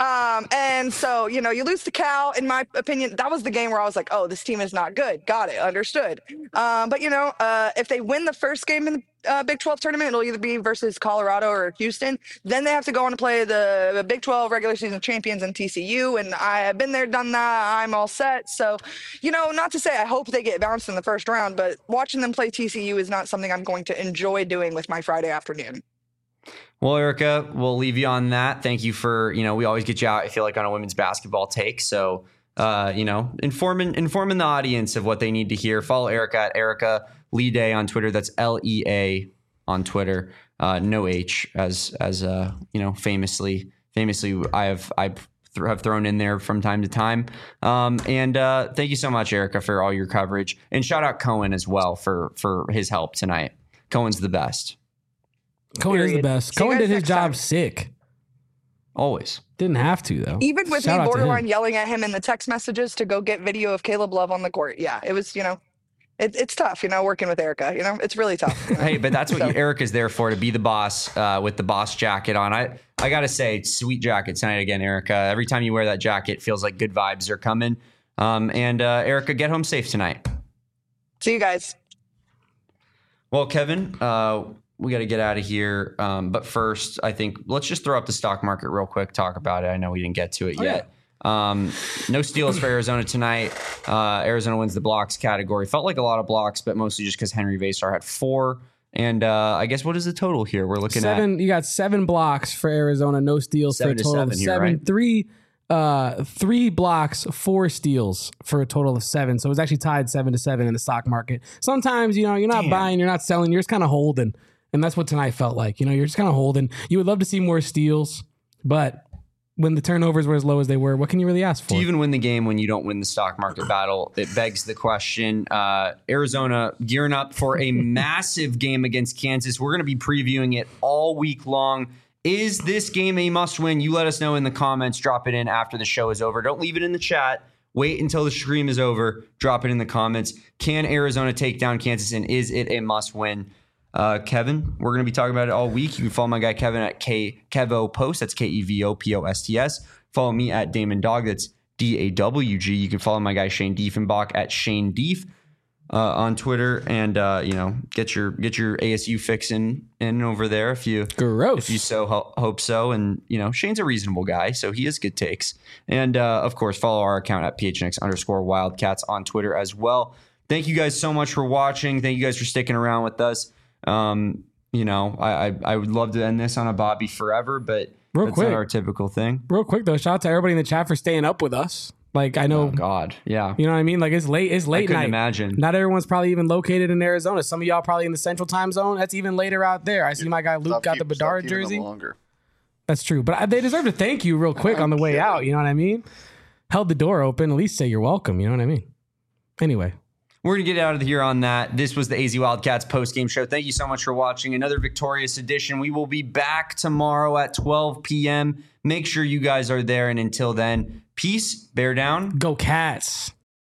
And so, you lose to Cal. In my opinion, that was the game where I was like, oh, this team is not good. Got it. Understood. But, if they win the first game in the Big 12 tournament, it'll either be versus Colorado or Houston. Then they have to go on to play the Big 12 regular season champions in TCU. And I have been there, done that. I'm all set. So, not to say I hope they get bounced in the first round, but watching them play TCU is not something I'm going to enjoy doing with my Friday afternoon. Well, Erica, we'll leave you on that. Thank you for, we always get you out, I feel like, on a women's basketball take. So, informing the audience of what they need to hear. Follow Erica at Erica Leday on Twitter. That's LEA on Twitter. No H, as famously I have thrown in there from time to time. And thank you so much, Erica, for all your coverage. And shout out Cohen as well for his help tonight. Cohen's the best. Cohen is the best. Cohen did his job sick. Always. Didn't have to, though. Even with me borderline yelling at him in the text messages to go get video of Caleb Love on the court. Yeah, it was, it's tough, working with Erica. It's really tough. Hey, but that's what Erica's there for, to be the boss with the boss jacket on. I got to say, sweet jacket tonight again, Erica. Every time you wear that jacket, it feels like good vibes are coming. And Erica, get home safe tonight. See you guys. Well, Kevin, we got to get out of here. But first, I think let's just throw up the stock market real quick, talk about it. I know we didn't get to it yet. Yeah. No steals for Arizona tonight. Arizona wins the blocks category. Felt like a lot of blocks, but mostly just because Henry Vasar had 4. And I guess what is the total here? We're looking at 7. You got 7 blocks for Arizona, no steals for a total of 7. Here, right? 3 blocks, 4 steals for a total of 7. So it was actually tied 7-7 in the stock market. Sometimes, you're not buying, you're not selling, you're just kind of holding. And that's what tonight felt like. You're just kind of holding. You would love to see more steals, but when the turnovers were as low as they were, what can you really ask for? To even win the game when you don't win the stock market battle, it begs the question. Arizona gearing up for a massive game against Kansas. We're going to be previewing it all week long. Is this game a must win? You let us know in the comments. Drop it in after the show is over. Don't leave it in the chat. Wait until the stream is over. Drop it in the comments. Can Arizona take down Kansas, and is it a must win? Kevin, we're going to be talking about it all week. You can follow my guy Kevin at KevoPost. That's KEVOPOSTS. Follow me at Damon Dog. That's DAWG. You can follow my guy Shane Diefenbach at Shane Dief on Twitter, and get your ASU fixin' in over there if you so hope so. And Shane's a reasonable guy, so he has good takes. And of course, follow our account at PHNX_Wildcats on Twitter as well. Thank you guys so much for watching. Thank you guys for sticking around with us. I would love to end this on a Bobby forever, but That's not our typical thing. Real quick though, shout out to everybody in the chat for staying up with us. Like I know, Oh God, yeah. you know what I mean. Like it's late. It's late I couldn't night. imagine. Not everyone's probably even located in Arizona. Some of y'all probably in the Central Time Zone. That's even later out there. I see my guy Luke got the Bedard jersey. Longer. That's true, but they deserve to thank you real quick on the way out. You know what I mean? Held the door open. At least say you're welcome. You know what I mean? Anyway. We're going to get out of here on that. This was the AZ Wildcats post-game show. Thank you so much for watching another victorious edition. We will be back tomorrow at 12 p.m. Make sure you guys are there. And until then, peace, bear down. Go Cats.